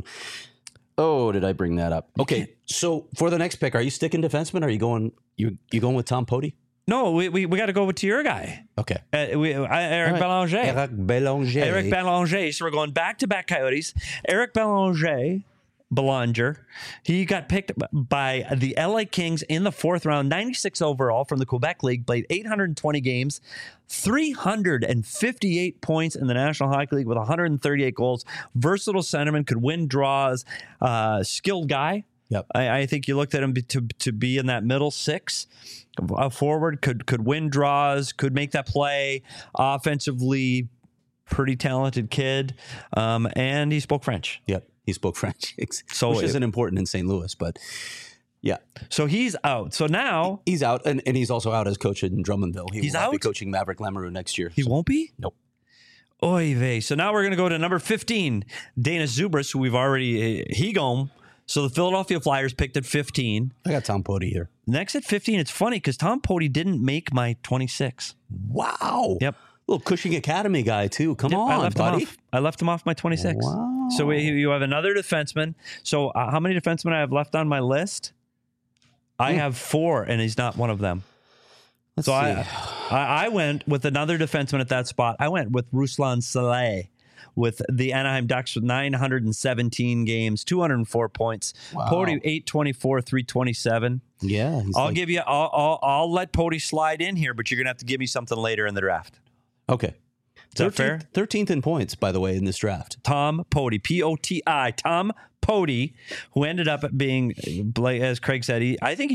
Oh, did I bring that up? Okay, so for the next pick, are you sticking defenseman? Or are you going you you going with Tom Poti? No, we we, we got to go with your guy. Okay, uh, we, uh, Eric right. Belanger. Eric Belanger. Eric Belanger. So we're going back to back Coyotes. Eric Belanger. Belanger. He got picked by the L A Kings in the fourth round, ninety-six overall from the Quebec League, played eight hundred twenty games, three hundred fifty-eight points in the National Hockey League with one hundred thirty-eight goals. Versatile centerman, could win draws, uh, skilled guy. Yep. I, I think you looked at him to to be in that middle six. A forward, could could win draws, could make that play offensively. Pretty talented kid, um, and he spoke French. Yep. He spoke French, so which it, isn't important in Saint Louis, but yeah. So he's out. So now he's out, and, and he's also out as coach in Drummondville. He he's will out? not be coaching Maverick Lamoureux next year. He so. won't be? Nope. Oy vey. So now we're going to go to number fifteen, Dana Zubris, who we've already uh, he gone. So the Philadelphia Flyers picked at fifteen. I got Tom Poti here. Next at fifteen, it's funny because Tom Poti didn't make my twenty-six. Wow. Yep. Little Cushing Academy guy, too. Come yep, on, I left buddy. Him off. I left him off my twenty-six. Wow. So we, you have another defenseman. So uh, how many defensemen I have left on my list? I mm. have four, and he's not one of them. Let's so see. I, I I went with another defenseman at that spot. I went with Ruslan Saleh with the Anaheim Ducks with nine hundred seventeen games, two hundred four points. Wow. Poti eight twenty-four, three twenty-seven. Yeah. I'll like... give you, I'll, I'll, I'll let Poti slide in here, but you're going to have to give me something later in the draft. Okay. Is that fair? thirteenth in points, by the way, in this draft. Tom Poti, P O T I, Tom Poti, who ended up being, as Craig said, he, I think he just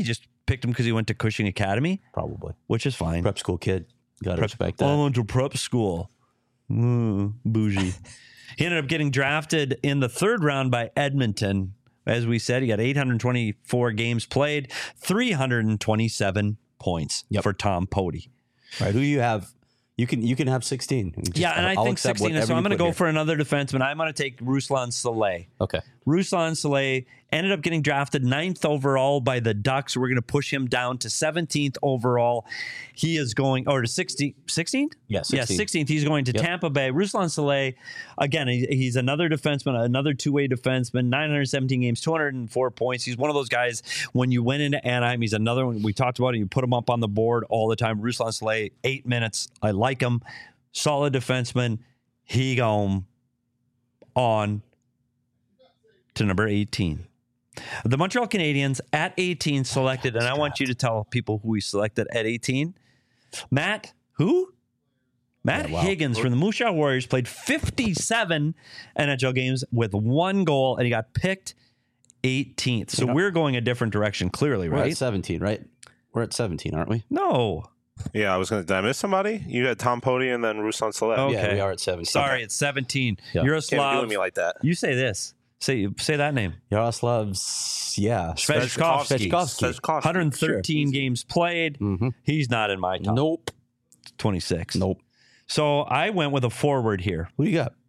picked him because he went to Cushing Academy, Probably. which is fine. Prep school kid. Got to respect I that. went to prep school. Mm, bougie. He ended up getting drafted in the third round by Edmonton. As we said, he got eight hundred twenty-four games played, three hundred twenty-seven points Yep. for Tom Pody. Right. Who you have? You can you can have sixteen. Just- Yeah, and I I'll think accept sixteen. whatever So you I'm going to put go here. for another defenseman. I'm going to take Ruslan Saleh. Okay. Ruslan Saleh ended up getting drafted ninth overall by the Ducks. We're going to push him down to seventeenth overall. He is going, or to sixteenth? sixteenth? Yeah, Yeah, sixteenth. sixteenth. He's going to Yep. Tampa Bay. Ruslan Saleh, again, he, he's another defenseman, another two-way defenseman, nine hundred seventeen games, two hundred four points. He's one of those guys, when you went into Anaheim, he's another one. We talked about it. You put him up on the board all the time. Ruslan Saleh, eight minutes. I like him. Solid defenseman. He gone on to number eighteen. The Montreal Canadiens at eighteen selected, and I want you to tell people who we selected at eighteen. Matt, who? Matt Yeah, wow. Higgins from the Moose Jaw Warriors played fifty-seven N H L games with one goal, and he got picked eighteenth. So Yeah. we're going a different direction, clearly, We're right? at seventeen, right? We're at seventeen, aren't we? No. Yeah, I was going to. Did I miss somebody? You had Tom Pody and then Ruslan Saleh. Oh. Yeah, Okay. we are at seventeen. Sorry, it's seventeen. Yeah. Can't be Yaroslav. doing me like that. You say this. Say say that name. Yaroslav's, yeah. Svechkovsky. Svechkovsky. Svechkovsky. one hundred thirteen games played. Mm-hmm. He's not in my top Nope. twenty-six. Nope. So I went with a forward here. Who do you got?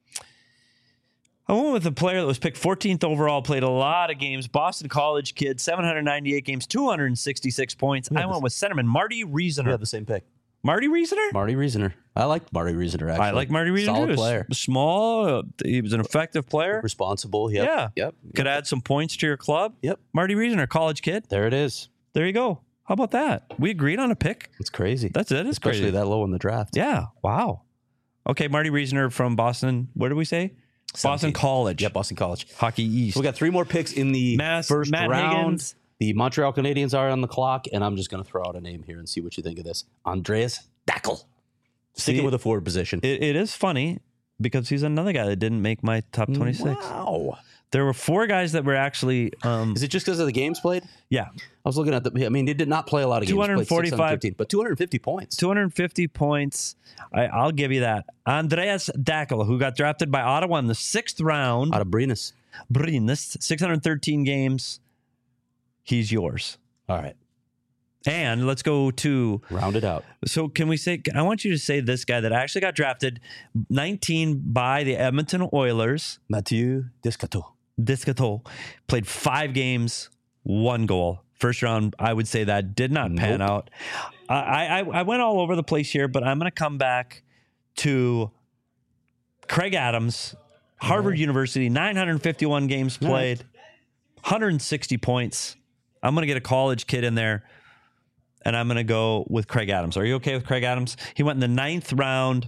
I went with a player that was picked fourteenth overall, played a lot of games, Boston College kid, seven hundred ninety-eight games, two hundred sixty-six points. I went with centerman Marty We Riesener. have the same pick. Marty Riesener? Marty Riesener. I like Marty Riesener, actually. I like Marty Riesener Solid too. player. S- Small. uh, he was an effective player. Responsible. Yep. Yeah. Yep. Could add some points to your club. Yep. Marty Riesener, college kid. There it is. There you go. How about that? We agreed on a pick. It's crazy. That's it. It's Especially crazy. that low in the draft. Yeah. Wow. Okay, Marty Riesener from Boston. Where did we say? Boston seventeen. College. Yeah, Boston College. Hockey East. So we got three more picks in the Mass- first Matt round. Higgins. The Montreal Canadiens are on the clock, and I'm just going to throw out a name here and see what you think of this. Andreas Dackel. Sticking See, with a forward position. It, it is funny because he's another guy that didn't make my top twenty-six. Wow. There were four guys that were actually, um, Is it just because of the games played? yeah, I was looking at the. I mean, he did not play a lot of games. two Played hundred forty-five six hundred fifteen, but two hundred fifty points. two hundred fifty points. I, I'll give you that. Andreas Dackel, who got drafted by Ottawa in the sixth round. Out of Brinus. Brynäs, six hundred thirteen games. He's yours. All right. And let's go to, Round it out. so can we say, I want you to say this guy that actually got drafted nineteen by the Edmonton Oilers. Mathieu Descateau. Descateau played five games, one goal. First round, I would say that did not pan Nope. out. I, I I went all over the place here, but I'm going to come back to Craig Adams, Harvard University, nine hundred fifty-one games played, one hundred sixty points. I'm going to get a college kid in there, and I'm going to go with Craig Adams. Are you okay with Craig Adams? He went in the ninth round,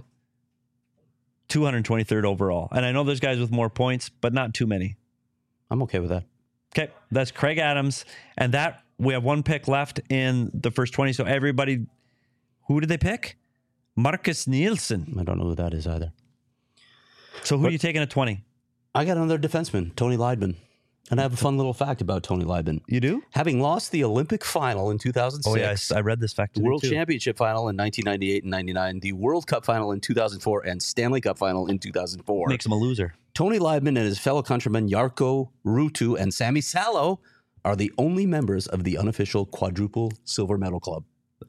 two hundred twenty-third overall. And I know there's guys with more points, but not too many. I'm okay with that. Okay, that's Craig Adams, and that we have one pick left in the first twenty. So everybody, who did they pick? Marcus Nielsen. I don't know who that is either. So who But- are you taking at twenty? I got another defenseman, Tony Leidman. And I have a fun little fact about Tony Leidman. You do? Having lost the Olympic final in two thousand six, Oh yes, I read this fact. the today, World too. Championship final in nineteen ninety-eight and ninety-nine, the World Cup final in two thousand four, and Stanley Cup final in two thousand four. Makes him a loser. Tony Leidman and his fellow countrymen Jarkko Ruutu and Sami Salo are the only members of the unofficial quadruple silver medal club.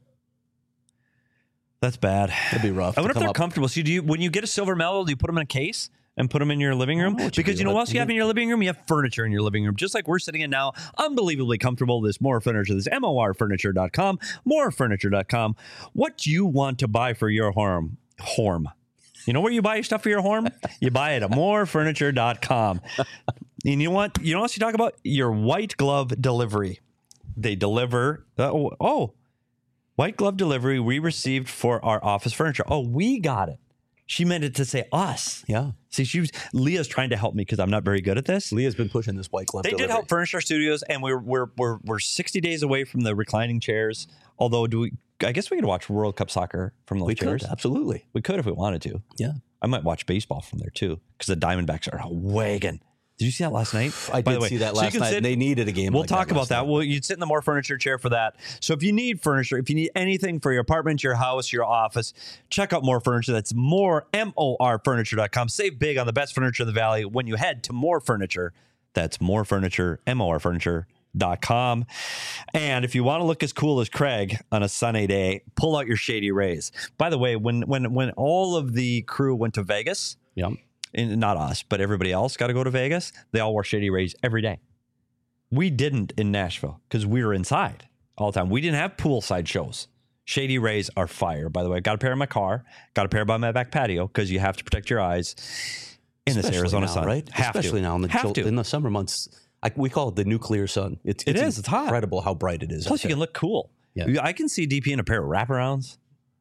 That's bad. That'd be rough. I to wonder if come they're up- comfortable. So do you, when you get a silver medal, do you put them in a case and put them in your living room? know what you Because do. you know what Let- else you have in your living room? You have furniture in your living room, just like we're sitting in now. Unbelievably comfortable. This More Furniture. This M O R furniture dot com. more furniture dot com. What do you want to buy for your home? Home. You know where you buy your stuff for your home? You buy it at more furniture dot com. And you know what? You know what else you talk about? Your white glove delivery. They deliver. Uh, oh, oh, white glove delivery we received for our office furniture. Oh, we got it. She meant it to say us. Yeah. See, she was Leah's trying to help me because I'm not very good at this. Leah's been pushing this white glove They delivery. did help furnish our studios, and we're we're we're we're sixty days away from the reclining chairs. Although, do we? I guess we could watch World Cup soccer from those We chairs. could, absolutely. We could if we wanted to. Yeah. I might watch baseball from there too because the Diamondbacks are a wagon. Did you see that last night? I By did the way, see that so you last can night. sit- They needed a game. We'll like talk that about last that. night. Well, you'd sit in the More Furniture chair for that. So if you need furniture, if you need anything for your apartment, your house, your office, check out More Furniture. That's more, M O R furniture dot com. Save big on the best furniture in the valley when you head to More Furniture. That's More Furniture, M O R furniture dot com. And if you want to look as cool as Craig on a sunny day, pull out your Shady Rays. By the way, when when when all of the crew went to Vegas, Yeah. and not us, but everybody else got to go to Vegas, they all wore Shady Rays every day. We didn't in Nashville because we were inside all the time. We didn't have poolside shows. Shady Rays are fire, by the way. Got a pair in my car, got a pair by my back patio because you have to protect your eyes in this Especially Arizona now, sun. right? Have Especially to. now in the have chill- to. in the summer months. I, we call it the nuclear sun. It's, It it's is. It's hot. incredible how bright it is. Plus, out you there. can look cool. Yeah. I can see D P in a pair of wraparounds.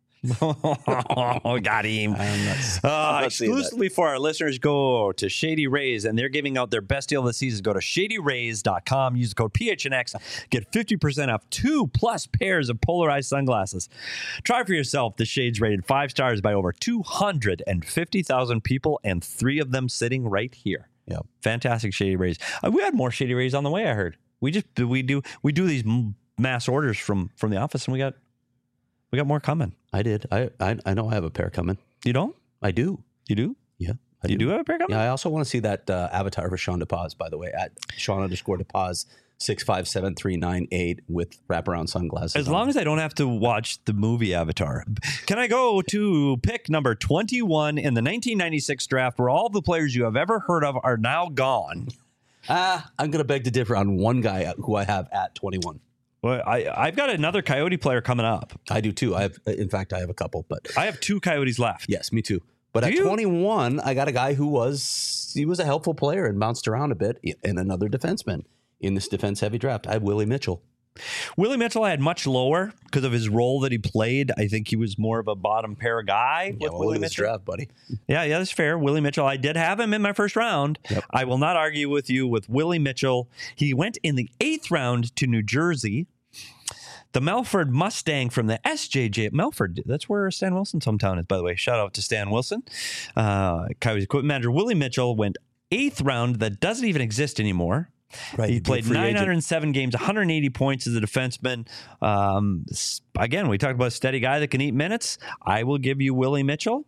Oh, got him. I'm not, Uh, I'm not seeing that. exclusively for our listeners, go to Shady Rays, and they're giving out their best deal of the season. Go to shady rays dot com. Use the code P H N X. Get fifty percent off two plus pairs of polarized sunglasses. Try for yourself. The shades rated five stars by over two hundred fifty thousand people, and three of them sitting right here. Yeah. Fantastic Shady Rays. Uh, we had more Shady Rays on the way, I heard. We just we do we do these m- mass orders from from the office, and we got we got more coming. I did. I, I I know I have a pair coming. You don't? I do. You do? Yeah. I You do have a pair coming? Yeah. I also want to see that uh, avatar for Sean DePaz, by the way, at Sean underscore DePaz six five seven three nine eight with wraparound sunglasses. As on. long as I don't have to watch the movie Avatar. Can I go to pick number twenty-one in the nineteen ninety-six draft where all the players you have ever heard of are now gone? Ah, I'm going to beg to differ on one guy who I have at twenty-one. Well, I, I've got another Coyote player coming up. I do too. I have, in fact, I have a couple, but I have two Coyotes left. yes, me too. But Do at you? twenty-one, I got a guy who was he was a helpful player and bounced around a bit, and another defenseman in this defense-heavy draft. I have Willie Mitchell. Willie Mitchell I had much lower because of his role that he played. I think he was more of a bottom pair guy with Yeah, well, Willie look at this Mitchell. draft, buddy. Yeah, yeah, that's fair. Willie Mitchell. I did have him in my first round. Yep. I will not argue with you with Willie Mitchell. He went in the eighth round to New Jersey. The Melford Mustang from the S J J. Melford, that's where Stan Wilson's hometown is, by the way. Shout out to Stan Wilson. Uh, Coyotes equipment manager Willie Mitchell went eighth round. That doesn't even exist anymore. Right, He he'd be a played free agent. nine hundred seven games, one hundred eighty points as a defenseman. Um, s- again, we talked about a steady guy that can eat minutes. I will give you Willie Mitchell.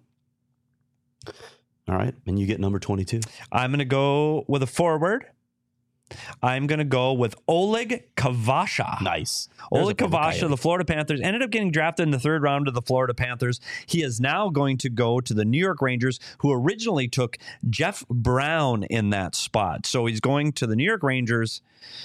All right, and you get number twenty-two. I'm going to go with a forward. I'm going to go with Oleg Kavasha. Nice. There's a Oleg former Kavasha, Coyote. the Florida Panthers, ended up getting drafted in the third round of the Florida Panthers. He is now going to go to the New York Rangers, who originally took Jeff Brown in that spot. So he's going to the New York Rangers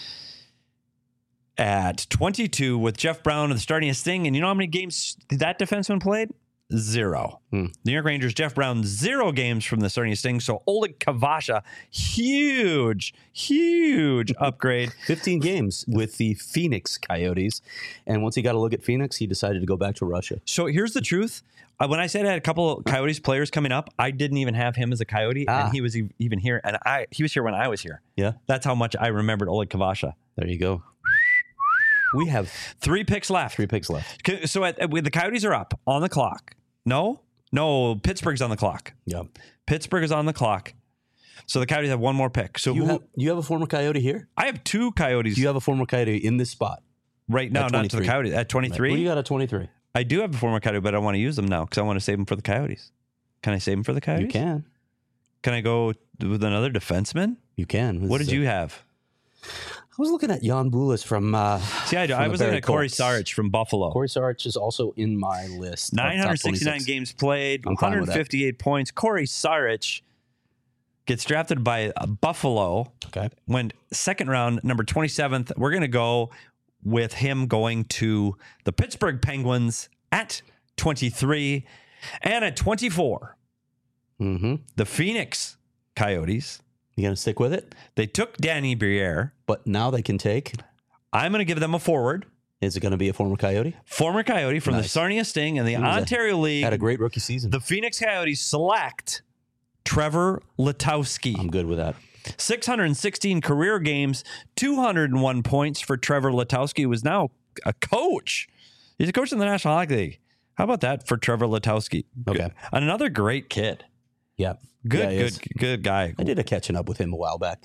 at twenty-two with Jeff Brown and starting his thing. And you know how many games that defenseman played? Zero. Hmm. New York Rangers, Jeff Brown, zero games from the starting sting. So Oleg Kavasha, huge, huge upgrade. fifteen games with the Phoenix Coyotes. And once he got a look at Phoenix, he decided to go back to Russia. So here's the truth. Uh, when I said I had a couple of Coyotes players coming up, I didn't even have him as a Coyote, Ah. and he was e- even here. And I he was here when I was here. Yeah, That's how much I remembered Oleg Kavasha. there you go. We have Three picks left. three picks left. C- So at, with the Coyotes are up on the clock. No, no, Pittsburgh's on the clock. Yeah. Pittsburgh is on the clock. So the Coyotes have one more pick. So You who, have, you have a former Coyote here? I have two Coyotes Do you have a former Coyote in this spot? right now, at not to the twenty-three? Coyotes. At Right. twenty-three, Who do you got at twenty-three? I do have a former Coyote, but I want to use them now because I want to save them for the Coyotes. Can I save them for the Coyotes? You can. Can I go with another defenseman? You can. This What is did a- you have? I was looking at Jan Bulis from. Uh, See, I, from I the was looking Barrie at Corey Colts. Sarich from Buffalo. Corey Sarich is also in my list. of top nine hundred sixty-nine twenty-six. games played, I'm fine with that. one hundred fifty-eight points. Corey Sarich gets drafted by uh, Buffalo, Okay. went second round, number twenty-seventh. We're going to go with him going to the Pittsburgh Penguins at twenty-three. And at twenty-four, Mm-hmm. the Phoenix Coyotes. You going to stick with it? They took Danny Briere. But now they can take. I'm going to give them a forward. Is it going to be a former Coyote? Former Coyote from Nice. the Sarnia Sting and the He was a- Ontario League. Had a great rookie season. The Phoenix Coyotes select Trevor Letowski. I'm good with that. six hundred sixteen career games, two hundred one points for Trevor Letowski, who is now a coach. He's a coach in the National Hockey League. How about that for Trevor Letowski? Okay. Another great kid. Yeah. Good, Yeah, he good, is. good guy. I did a catching up with him a while back.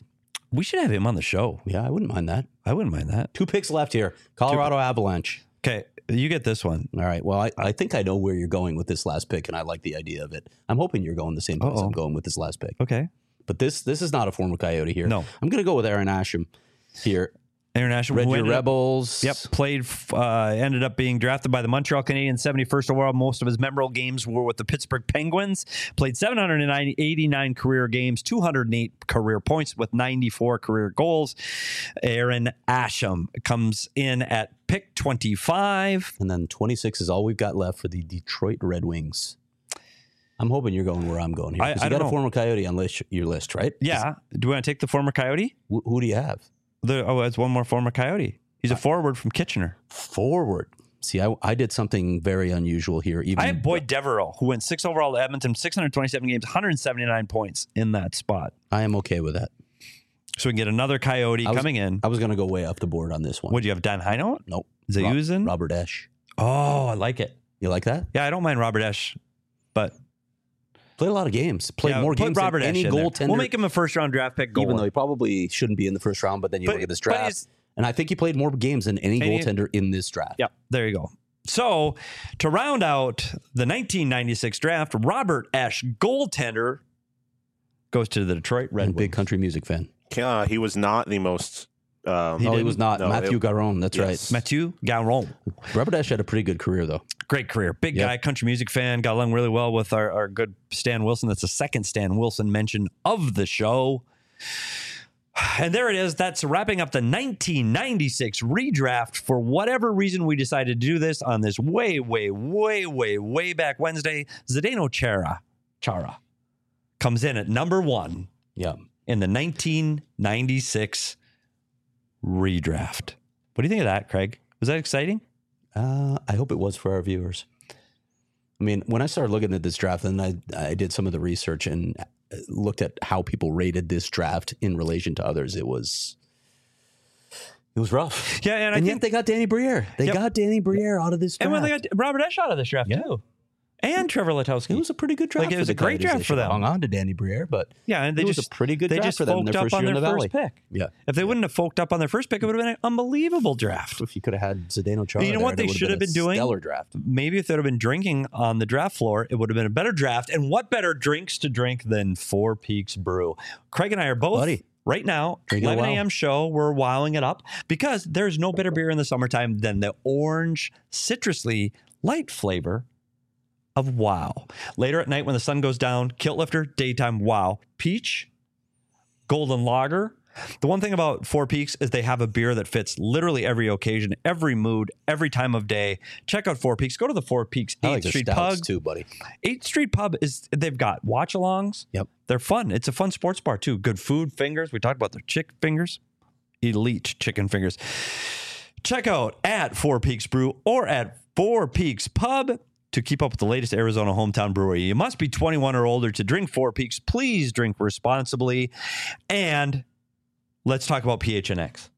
We should have him on the show. Yeah, I wouldn't mind that. I wouldn't mind that. Two picks left here. Colorado Avalanche. Okay, you get this one. All right. Well, I, I think I know where you're going with this last pick, and I like the idea of it. I'm hoping you're going the same place Uh-oh. I'm going with this last pick. Okay. But this this is not a former Coyote here. No. I'm going to go with Aaron Asham here. International. Red who Deer ended up- Rebels. Yep, played, uh, ended up being drafted by the Montreal Canadiens, seventy-first overall. Most of his memorable games were with the Pittsburgh Penguins. Played seven hundred eighty-nine career games, two hundred eight career points with ninety-four career goals. Aaron Asham comes in at pick twenty-five. And then twenty-six is all we've got left for the Detroit Red Wings. I'm hoping you're going where I'm going here. I- Because I you don't got know. a former Coyote on list, your list, right? Yeah. Do we want to take the former Coyote? Wh- who do you have? The, oh, it's one more former Coyote. He's a forward from Kitchener. Forward. See, I, I did something very unusual here. Even I have Boyd Devereaux, who went six overall to Edmonton, six hundred twenty-seven games, one hundred seventy-nine points in that spot. I am okay with that. So we can get another Coyote I was- coming in. I was going to go way off the board on this one. What do you have, Dan Heino? Nope. Zayuzin? Rob- Robert Esch. Oh, I like it. You like that? Yeah, I don't mind Robert Esch, but Played a lot of games. Played yeah, more put games Robert than any Esch in there. goaltender. We'll make him a first round draft pick. even though goalie. he probably shouldn't be in the first round, but then you But- look at this but draft. he's- And I think he played more games than any And he- goaltender in this draft. Yep, there you go. So to round out the nineteen ninety-six draft, Robert Esch, goaltender, goes to the Detroit Red And Wings. big country music fan. Uh, he was not the most. Um, no, he didn't? was not. No, Matthew it- Garon. That's yes. Mathieu Garon. right. Robert Esch had a pretty good career, though. Great career. Big Yep. guy, country music fan. Got along really well with our, our good Stan Wilson. That's the second Stan Wilson mention of the show. And there it is. That's wrapping up the nineteen ninety-six redraft. For whatever reason, we decided to do this on this way, way, way, way, way back Wednesday. Zdeno Chara, Chara comes in at number one Yeah. in the nineteen ninety-six redraft. What do you think of that, Craig? Was that exciting? Uh, I hope it was for our viewers. I mean, when I started looking at this draft, and I, I did some of the research and looked at how people rated this draft in relation to others, it was it was rough. Yeah, and I And think yet they got Danny Briere. They Yep. got Danny Briere out of this draft. And when they got Robert Esch out of this draft, Yeah. too. And Trevor Letowski. It was a pretty good draft. Like, it for was the a great Coyotes. draft They for should have them. hung on to Danny Briere, but Yeah, and they it was just a pretty good they draft just for them in folked their up first on year their in the first Valley. pick. Yeah. If they wouldn't have folked up on their first pick, it would have been an unbelievable draft. If you could have had Zdeno Chara, You know there, what it they would should have a been doing? Stellar draft. Maybe if they'd have been drinking on the draft floor, it would have been a better draft. And what better drinks to drink than Four Peaks Brew? Craig and I are both Buddy. right now, Drinking a eleven wow. a.m. show. We're wowing it up because there's no better beer in the summertime than the orange, citrusly, light flavor of Wow. Later at night when the sun goes down, Kilt Lifter, daytime Wow. Peach, Golden Lager. The one thing about Four Peaks is they have a beer that fits literally every occasion, every mood, every time of day. Check out Four Peaks. Go to the Four Peaks I eighth like their Street stouts Pub. too, buddy. eighth Street Pub is they've got watch-alongs. Yep. They're fun. It's a fun sports bar too. Good food, fingers. We talked about their chick fingers. Elite chicken fingers. Check out at Four Peaks Brew or at Four Peaks Pub to keep up with the latest Arizona hometown brewery. You must be twenty-one or older to drink Four Peaks. Please drink responsibly. And let's talk about P H N X.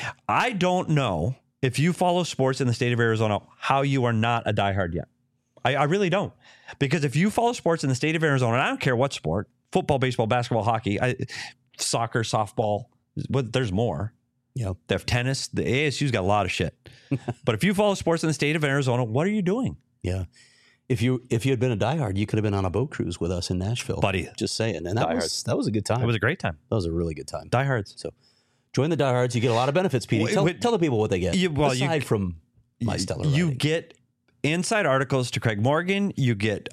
I don't know if you follow sports in the state of Arizona, how you are not a diehard yet. I, I really don't. Because if you follow sports in the state of Arizona, and I don't care what sport, football, baseball, basketball, hockey, I, soccer, softball, but there's more. Yeah. They have tennis. The A S U's got a lot of shit. But if you follow sports in the state of Arizona, what are you doing? Yeah. If you if you had been a diehard, you could have been on a boat cruise with us in Nashville. Buddy. Just saying. And that was Diehards. that was a good time. It was a great time. that was a really good time. Diehards. So join the diehards. You get a lot of benefits, Petey. Wait, Tell, wait. tell the people what they get. You- well, you- aside from my stellar You writing. get inside articles to Craig Morgan. You get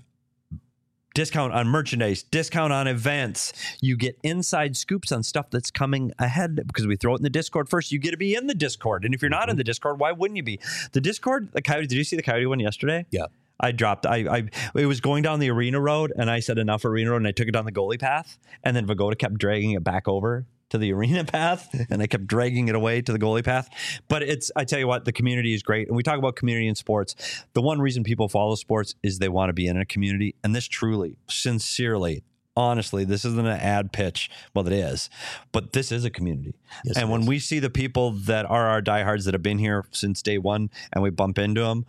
discount on merchandise, discount on events. You get inside scoops on stuff that's coming ahead because we throw it in the Discord first. You get to be in the Discord. And if you're not in the Discord, why wouldn't you be? The Discord, the Coyote, did you see the Coyote one yesterday? Yeah. I dropped, I, I, it was going down the arena road and I said enough arena road and I took it down the goalie path. And then Vagoda kept dragging it back over to the arena path and I kept dragging it away to the goalie path. But it's, I tell you what, the community is great. And we talk about community in sports. The one reason people follow sports is they want to be in a community. And this truly, sincerely, honestly, this isn't an ad pitch. Well, it is, but this is a community. Yes, and it when is. we see the people that are our diehards that have been here since day one and we bump into them,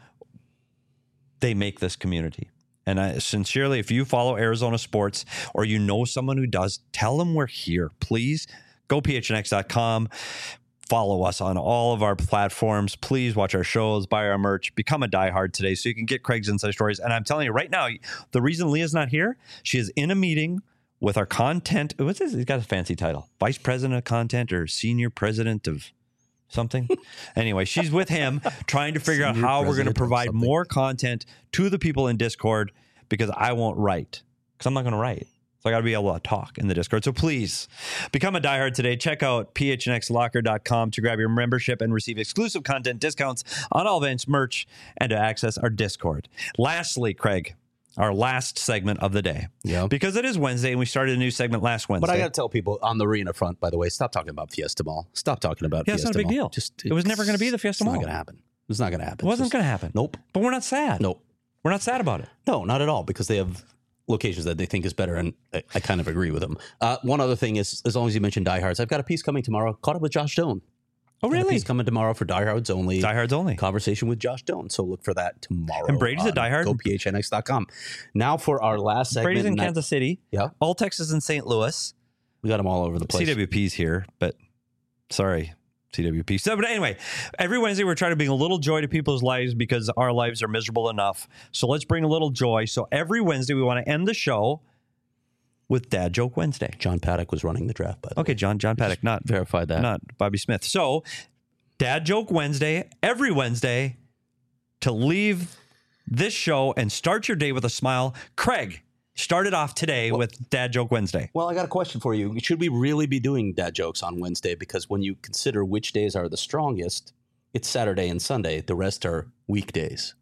they make this community. And I sincerely, if you follow Arizona sports or you know someone who does, tell them we're here. Please Go P H N X dot com. Follow us on all of our platforms. Please watch our shows, buy our merch, become a diehard today so you can get Craig's Inside Stories. And I'm telling you right now, the reason Leah's not here, she is in a meeting with our content. What's this? He's got a fancy title. Vice President of Content or Senior President of something. Anyway, she's with him trying to figure out how we're going to provide more content to the people in Discord because I won't write because I'm not going to write. So I got to be able to talk in the Discord. So please become a diehard today. Check out P H N X locker dot com to grab your membership and receive exclusive content discounts on all events, merch, and to access our Discord. Lastly, Craig, our last segment of the day. Yeah. Because it is Wednesday and we started a new segment last Wednesday. But I got to tell people on the arena front, by the way, stop talking about Fiesta Mall. Stop talking about yeah, Fiesta it's not a big Mall. deal. Just, it was never going to be the Fiesta it's Mall. It's not going to happen. It's not going to happen. It wasn't Just- going to happen. Nope. But we're not sad. Nope. We're not sad about it. No, not at all, because they have locations that they think is better, and I, I kind of agree with them. Uh, one other thing is, as long as you mentioned diehards, I've got a piece coming tomorrow. Caught up with Josh Doan. Oh, Got a really? piece coming tomorrow for diehards only. Diehards only. Conversation with Josh Doan. So look for that tomorrow. And Brady's a on diehard? Go P H N X dot com. Now for our last segment. Brady's in and I- Kansas City. Yeah. All Texas and Saint Louis. We got them all over the place. C W P's here, but sorry, C W P. So, but anyway, every Wednesday we're trying to bring a little joy to people's lives because our lives are miserable enough. So let's bring a little joy. So every Wednesday we want to end the show with Dad Joke Wednesday. John Paddock was running the draft, by the Okay, way. John John Paddock, not Verified that. not Bobby Smith. So Dad Joke Wednesday every Wednesday to leave this show and start your day with a smile. Craig started off today with Dad Joke Wednesday. Well, I got a question for you. Should we really be doing dad jokes on Wednesday? Because when you consider which days are the strongest, it's Saturday and Sunday. The rest are weekdays.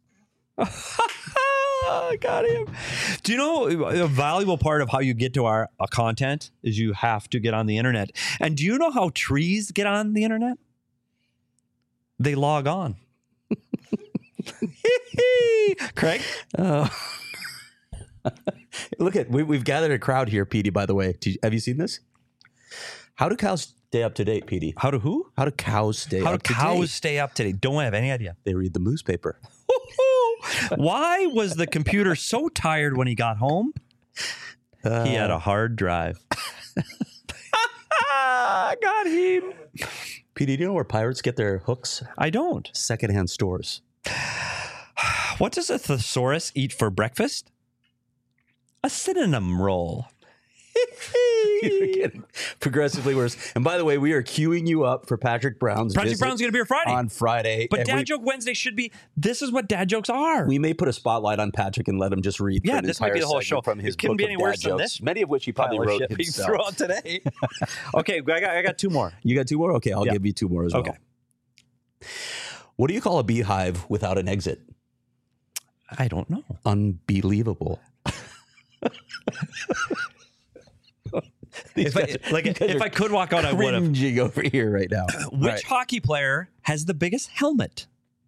I got him. Do you know a valuable part of how you get to our uh, content is you have to get on the internet. And do you know how trees get on the internet? They log on. Craig? Uh, look at we, we've gathered a crowd here, Petey. By the way, Did you- have you seen this? How do cows stay up to date, Petey? How do who? How do cows stay How do up to cows date? stay up to date? Don't have any idea. They read the newspaper. Why was the computer so tired when he got home? Uh, He had a hard drive. Got him. Petey, do you know where pirates get their hooks? I don't. Secondhand stores. What does a thesaurus eat for breakfast? A synonym roll. You're getting progressively worse. And by the way, we are queuing you up for Patrick Brown's Patrick visit Brown's going to be here Friday. on Friday. But And Dad we, Joke Wednesday should be, this is what dad jokes are. we may put a spotlight on Patrick and let him just read. Yeah, for an this might be entire the whole segment show. from his It couldn't book be of any dad worse than jokes, this. many of which he probably Pile of wrote shit he himself. threw out today. Okay, I got, I got two more. You got two more? Okay, I'll Yeah. give you two more as well. Okay. What do you call a beehive without an exit? I don't know. Unbelievable. If I, like, if I could walk out, I would have. Cringing over here right now. Which Right. hockey player has the biggest helmet?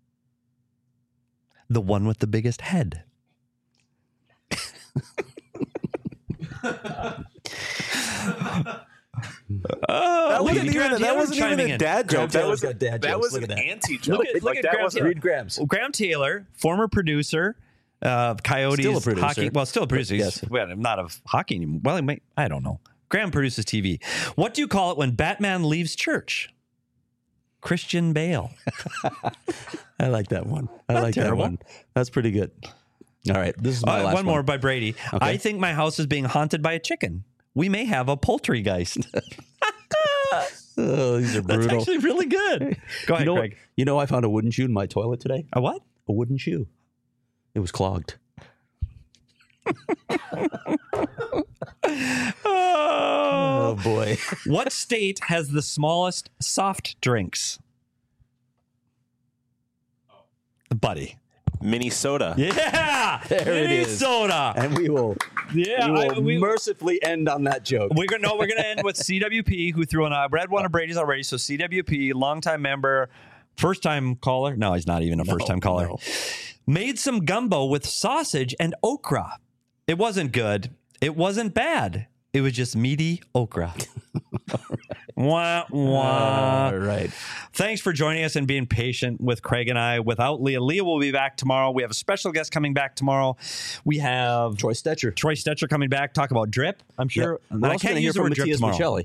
The one with the biggest head. Oh, That look wasn't at Graham even, that Taylor wasn't even chiming a in. dad Graham joke. That Taylor's was got dad that jokes. was Look an at that. anti joke. Look at- look like at that Graham was Taylor. Read Grams. Graham Taylor, former producer of Coyotes Still a producer. hockey. Well, still a producer. He's, Yes. well, not of hockey anymore. Well, he might, I don't know. Graham produces T V. What do you call it when Batman leaves church? Christian Bale. I like that one. I Not like terrible. that one. That's pretty good. All right. This is my Uh, last one more by Brady. Okay. I think my house is being haunted by a chicken. We may have a poultrygeist. Oh, these are That's brutal. actually really good. Go ahead, you know, Craig. you know, I found a wooden shoe in my toilet today. A what? A wooden shoe. It was clogged. Oh. Oh boy. What state has the smallest soft drinks? Buddy. Minnesota. Yeah. There it is. Minnesota. And we will, Yeah. we will I- we- mercifully end on that joke. We're gonna no, we're gonna end with C W P, who threw in a read one of Brady's already. So C W P, longtime member, first time caller. No, he's not even a first time caller. no. Made some gumbo with sausage and okra. It wasn't good. It wasn't bad. It was just meaty okra. Wah, wah. All right. Thanks for joining us and being patient with Craig and I. Without Leah, Leah will be back tomorrow. We have a special guest coming back tomorrow. We have Troy Stetcher. Troy Stetcher coming back. Talk about drip. I'm sure. Yep. And We're I also can't gonna hear use the from word drip Matthias tomorrow. Michelli.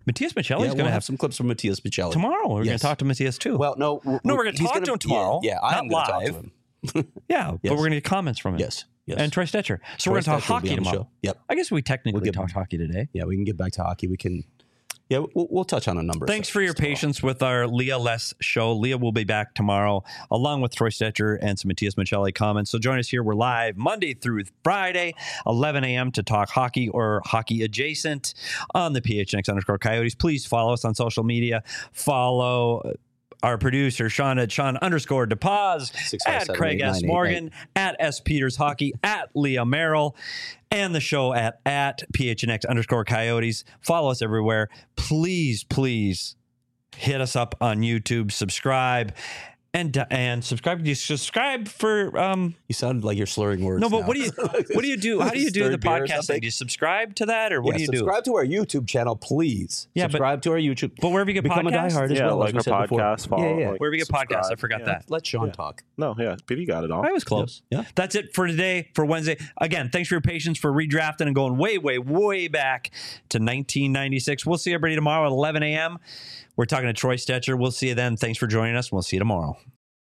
Matthias Michelli's yeah, going we'll to have have some clips from Matthias Michelli. tomorrow. We're going Yes. to talk to Matthias too. Well, no. No, we're gonna he's talk to him tomorrow, Yeah, yeah not I'm going to talk live. to him. yeah, Yes. but we're going to get comments from him. Yes. Yes. And Troy Stetcher. So Troy we're going to talk Stetcher will be hockey on the tomorrow. show. Yep. I guess we technically We'll get- talked hockey today. Yeah, we can get back to hockey. We can. Yeah, we'll, we'll touch on a number. of Thanks for your subjects tomorrow. patience with our Leah Less show. Leah will be back tomorrow along with Troy Stetcher and some Matthias Michelli comments. So join us here. We're live Monday through Friday, eleven a.m. to talk hockey or hockey adjacent on the P H N X underscore Coyotes. Please follow us on social media. Follow our producer, Sean at Sean underscore DePaz, six five at seven Craig eight nine S. eight Morgan, at S. Peters Hockey, at Leah Merrill, and the show at, at P H N X underscore Coyotes. Follow us everywhere. Please, please hit us up on YouTube, subscribe, and and subscribe. You subscribe for um You sound like you're slurring words. no, but now. what do you what do you do? How do you do the Third beer or podcast thing? something? Do you subscribe to that or what Yeah, do you do? subscribe to our YouTube channel, please. Yeah, but- subscribe to our YouTube. But wherever you get Become podcasts, a diehard as Yeah, well. like as we our said before. podcast, follow, yeah, yeah. like- wherever you get podcasts, I subscribe. forgot Yeah. that. Let Sean Yeah. talk. No, yeah, P D got it all. I was close. Yeah. That's it for today, for Wednesday. Again, thanks for your patience for redrafting and going way, way, way back to nineteen ninety-six. We'll see everybody tomorrow at eleven a.m. We're talking to Troy Stetcher. We'll see you then. Thanks for joining us. We'll see you tomorrow.